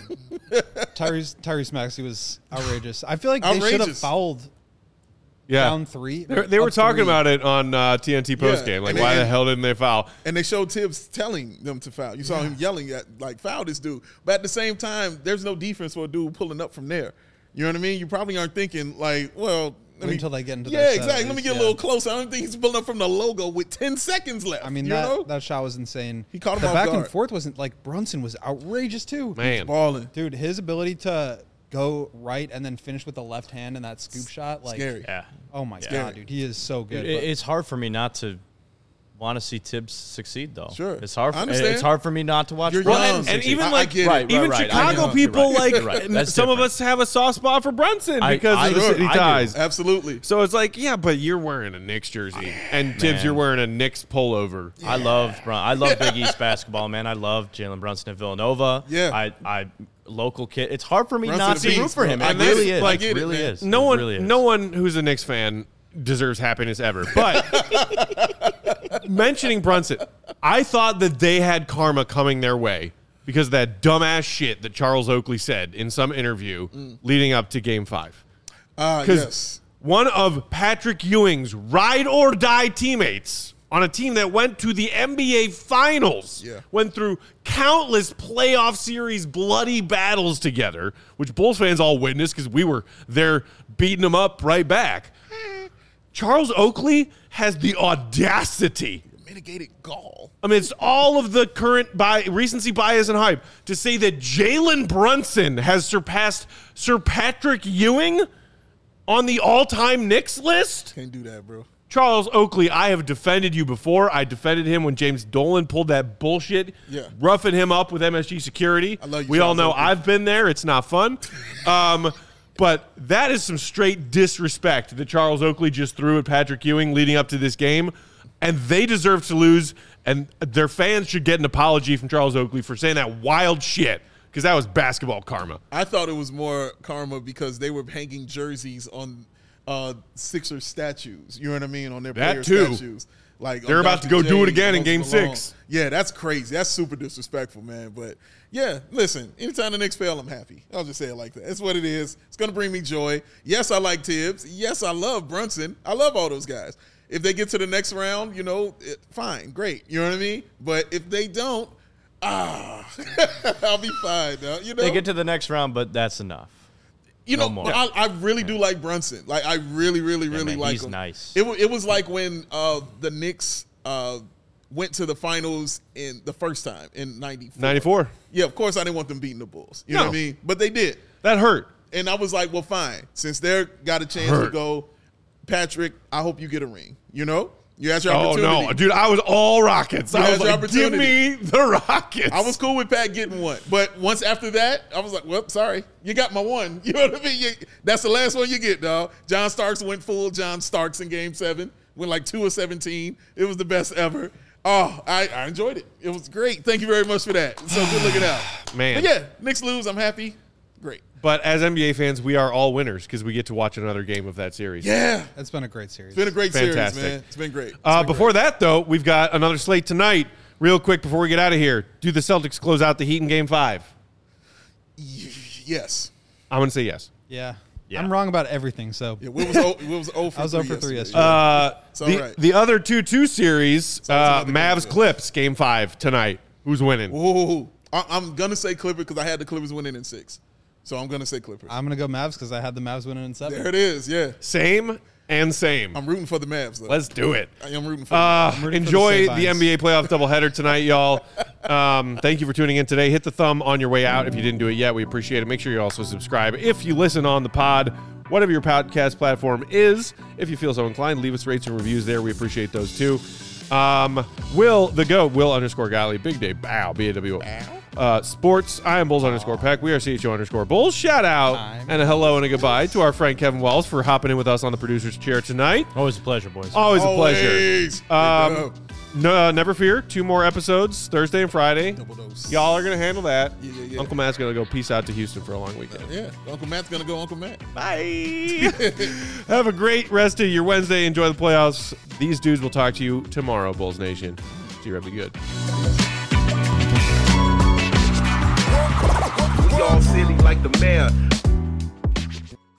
Speaker 4: Tyrese Maxey was outrageous. I feel like they should have
Speaker 2: Outrageous.
Speaker 4: fouled
Speaker 1: Yeah.
Speaker 4: down 3.
Speaker 1: They were
Speaker 4: up
Speaker 1: talking
Speaker 4: 3.
Speaker 1: about it on TNT postgame. Like,
Speaker 2: and
Speaker 1: why
Speaker 2: they-
Speaker 1: the hell didn't they foul?
Speaker 2: And they showed Tibbs telling them to foul. You saw him yelling at, like, foul this dude. But at the same time, there's no defense for a dude pulling up from there. You know what I mean? You probably aren't thinking, like, well,
Speaker 4: Wait until they get into
Speaker 2: yeah,
Speaker 4: their set,
Speaker 2: exactly.
Speaker 4: at
Speaker 2: Let me
Speaker 4: least,
Speaker 2: get a
Speaker 4: yeah.
Speaker 2: little closer. I don't think he's pulling up from the logo with 10 seconds left.
Speaker 4: I mean,
Speaker 2: you know?
Speaker 4: that shot was insane.
Speaker 2: He caught him
Speaker 4: the
Speaker 2: off
Speaker 4: back
Speaker 2: guard.
Speaker 4: and forth wasn't like Brunson was outrageous too.
Speaker 1: Man.
Speaker 2: Balling.
Speaker 4: Dude, his ability to go right and then finish with the left hand and that scoop shot, like,
Speaker 2: Scary.
Speaker 3: Yeah.
Speaker 4: oh my
Speaker 2: Scary.
Speaker 4: god, dude, he is so good.
Speaker 3: It's hard for me not to want to see Tibbs succeed, though.
Speaker 2: Sure.
Speaker 3: It's hard.
Speaker 2: I understand.
Speaker 3: It's hard for me not to watch.
Speaker 2: You're
Speaker 3: Brunson
Speaker 2: young.
Speaker 1: And
Speaker 3: succeed.
Speaker 1: even
Speaker 2: I
Speaker 1: like
Speaker 2: get it.
Speaker 3: Right,
Speaker 1: even
Speaker 3: right.
Speaker 1: Chicago
Speaker 3: I know.
Speaker 1: people,
Speaker 3: You're right.
Speaker 1: like
Speaker 3: You're right. That's
Speaker 1: some of
Speaker 3: different.
Speaker 1: us have a soft spot for Brunson because
Speaker 3: I
Speaker 1: of the
Speaker 3: do.
Speaker 1: city
Speaker 3: I do.
Speaker 1: ties.
Speaker 2: Absolutely.
Speaker 1: So it's like, yeah, but you're wearing a Knicks jersey, and Tibbs,
Speaker 3: Man.
Speaker 1: you're wearing a Knicks pullover.
Speaker 3: I love Big East basketball, man. I love Jalen Brunson at Villanova.
Speaker 2: Yeah.
Speaker 3: I local kid. It's hard for me
Speaker 2: Brunson
Speaker 3: not
Speaker 2: a
Speaker 3: to
Speaker 2: beast,
Speaker 3: root for
Speaker 2: bro.
Speaker 3: him.
Speaker 2: I
Speaker 3: It
Speaker 2: get
Speaker 3: really
Speaker 2: it.
Speaker 3: is.
Speaker 2: I
Speaker 3: It
Speaker 2: get it,
Speaker 3: really
Speaker 2: man.
Speaker 3: is.
Speaker 1: No
Speaker 3: It
Speaker 1: one,
Speaker 3: really is.
Speaker 1: no one who's a Knicks fan deserves happiness ever. But mentioning Brunson, I thought that they had karma coming their way because of that dumbass shit that Charles Oakley said in some interview leading up to Game 5. Because
Speaker 2: Yes.
Speaker 1: one of Patrick Ewing's ride or die teammates on a team that went to the NBA Finals,
Speaker 2: Yeah.
Speaker 1: went through countless playoff series bloody battles together, which Bulls fans all witnessed because we were there beating them up right back. Charles Oakley has the audacity,
Speaker 2: Mitigated gall.
Speaker 1: amidst all of the current recency bias and hype, to say that Jalen Brunson has surpassed Sir Patrick Ewing on the all-time Knicks list.
Speaker 2: Can't do that, bro.
Speaker 1: Charles Oakley, I have defended you before. I defended him when James Dolan pulled that bullshit,
Speaker 2: Yeah.
Speaker 1: roughing him up with MSG security.
Speaker 2: I love you,
Speaker 1: we all
Speaker 2: Charles
Speaker 1: know
Speaker 2: Oakley.
Speaker 1: I've been there. It's not fun. But that is some straight disrespect that Charles Oakley just threw at Patrick Ewing leading up to this game. And they deserve to lose, and their fans should get an apology from Charles Oakley for saying that wild shit, because that was basketball karma.
Speaker 2: I thought it was more karma because they were hanging jerseys on Sixers statues. You know what I mean? On their
Speaker 1: That
Speaker 2: player
Speaker 1: too.
Speaker 2: statues. Like
Speaker 1: They're
Speaker 2: on
Speaker 1: about to
Speaker 2: Dr.
Speaker 1: go do it
Speaker 2: J,
Speaker 1: again in
Speaker 2: Moses
Speaker 1: Game
Speaker 2: Malone.
Speaker 1: 6.
Speaker 2: Yeah, that's crazy. That's super disrespectful, man. But yeah, listen, anytime the Knicks fail, I'm happy. I'll just say it like that. That's what it is. It's going to bring me joy. Yes, I like Tibbs. Yes, I love Brunson. I love all those guys. If they get to the next round, you know, fine, great. You know what I mean? But if they don't, I'll be fine. Now, you know,
Speaker 3: They get to the next round, but that's enough.
Speaker 2: you know,
Speaker 3: no more.
Speaker 2: I really do like Brunson. Like, I really
Speaker 3: man,
Speaker 2: like
Speaker 3: he's
Speaker 2: him.
Speaker 3: nice.
Speaker 2: It was like when the Knicks went to the finals in the first time in 94.
Speaker 1: 94.
Speaker 2: Yeah, of course I didn't want them beating the Bulls. You know
Speaker 1: No.
Speaker 2: what I mean? But they did.
Speaker 1: That hurt.
Speaker 2: And I was like, well, fine. Since they're got a chance to
Speaker 1: Hurt.
Speaker 2: go, Patrick, I hope you get a ring. You know? You had your
Speaker 1: Oh,
Speaker 2: opportunity.
Speaker 1: no. Dude, I was all Rockets. I
Speaker 2: had
Speaker 1: was
Speaker 2: your
Speaker 1: like, give
Speaker 2: opportunity.
Speaker 1: me the Rockets.
Speaker 2: I was cool with Pat getting one. But once after that, I was like, well, sorry. You got my one. You know what I mean? That's the last one you get, dog. John Starks went full John Starks in Game 7. Went like 2 of 17. It was the best ever. Oh, I enjoyed it. It was great. Thank you very much for that. So good looking out.
Speaker 1: Man.
Speaker 2: But yeah, Knicks lose. I'm happy. Great.
Speaker 1: But as NBA fans, we are all winners because we get to watch another game of that series.
Speaker 2: Yeah.
Speaker 4: It's been a great series.
Speaker 2: It's been a great
Speaker 1: Fantastic.
Speaker 2: series, man. It's been great. It's been
Speaker 1: Before
Speaker 2: great.
Speaker 1: that, though, we've got another slate tonight. Real quick before we get out of here, do the Celtics close out the Heat in Game 5?
Speaker 2: Yes.
Speaker 1: I'm going to say yes.
Speaker 4: Yeah.
Speaker 3: Yeah.
Speaker 4: I'm wrong about everything, so
Speaker 2: Yeah, we was 0 for
Speaker 4: I was 0 for 3
Speaker 2: yesterday.
Speaker 4: yesterday.
Speaker 2: It's all
Speaker 1: The,
Speaker 2: right.
Speaker 1: the other 2-2 series,
Speaker 2: another game
Speaker 1: Mavs
Speaker 2: to
Speaker 1: Clips, Game 5 tonight. Who's winning?
Speaker 2: Ooh. I'm going to say Clippers because I had the Clippers winning in 6. So I'm going to say Clippers.
Speaker 4: I'm going to go Mavs because I had the Mavs winning in 7.
Speaker 2: There it is, yeah.
Speaker 1: Same and same.
Speaker 2: I'm rooting for the Mavs, though.
Speaker 1: Let's do it.
Speaker 2: I am rooting for the Mavs.
Speaker 4: rooting for
Speaker 1: Enjoy
Speaker 4: the
Speaker 1: the
Speaker 4: Sabines.
Speaker 1: NBA playoff doubleheader tonight, y'all. Thank you for tuning in today. Hit the thumb on your way out if you didn't do it yet. We appreciate it. Make sure you also subscribe if you listen on the pod, whatever your podcast platform is. If you feel so inclined, leave us rates and reviews there. We appreciate those too. Will the GOAT, Will_Gottlieb, Big Day Bow, BAWO. Sports, I am Bulls_Peck. We are CHO_Bulls. Shout out and a hello and a goodbye to our friend Kevin Wells for hopping in with us on the producer's chair tonight.
Speaker 3: Always a pleasure, boys.
Speaker 1: Always a pleasure.
Speaker 2: Always.
Speaker 1: No, never fear. 2 more episodes, Thursday and Friday.
Speaker 2: Double dose.
Speaker 1: Y'all are going to handle that.
Speaker 2: Yeah.
Speaker 1: Uncle Matt's going to go peace out to Houston for a long weekend.
Speaker 2: Yeah. Uncle Matt's going to go Uncle Matt.
Speaker 1: Bye. Have a great rest of your Wednesday. Enjoy the playoffs. These dudes will talk to you tomorrow, Bulls Nation. See you, be good.
Speaker 5: We all silly like the mayor.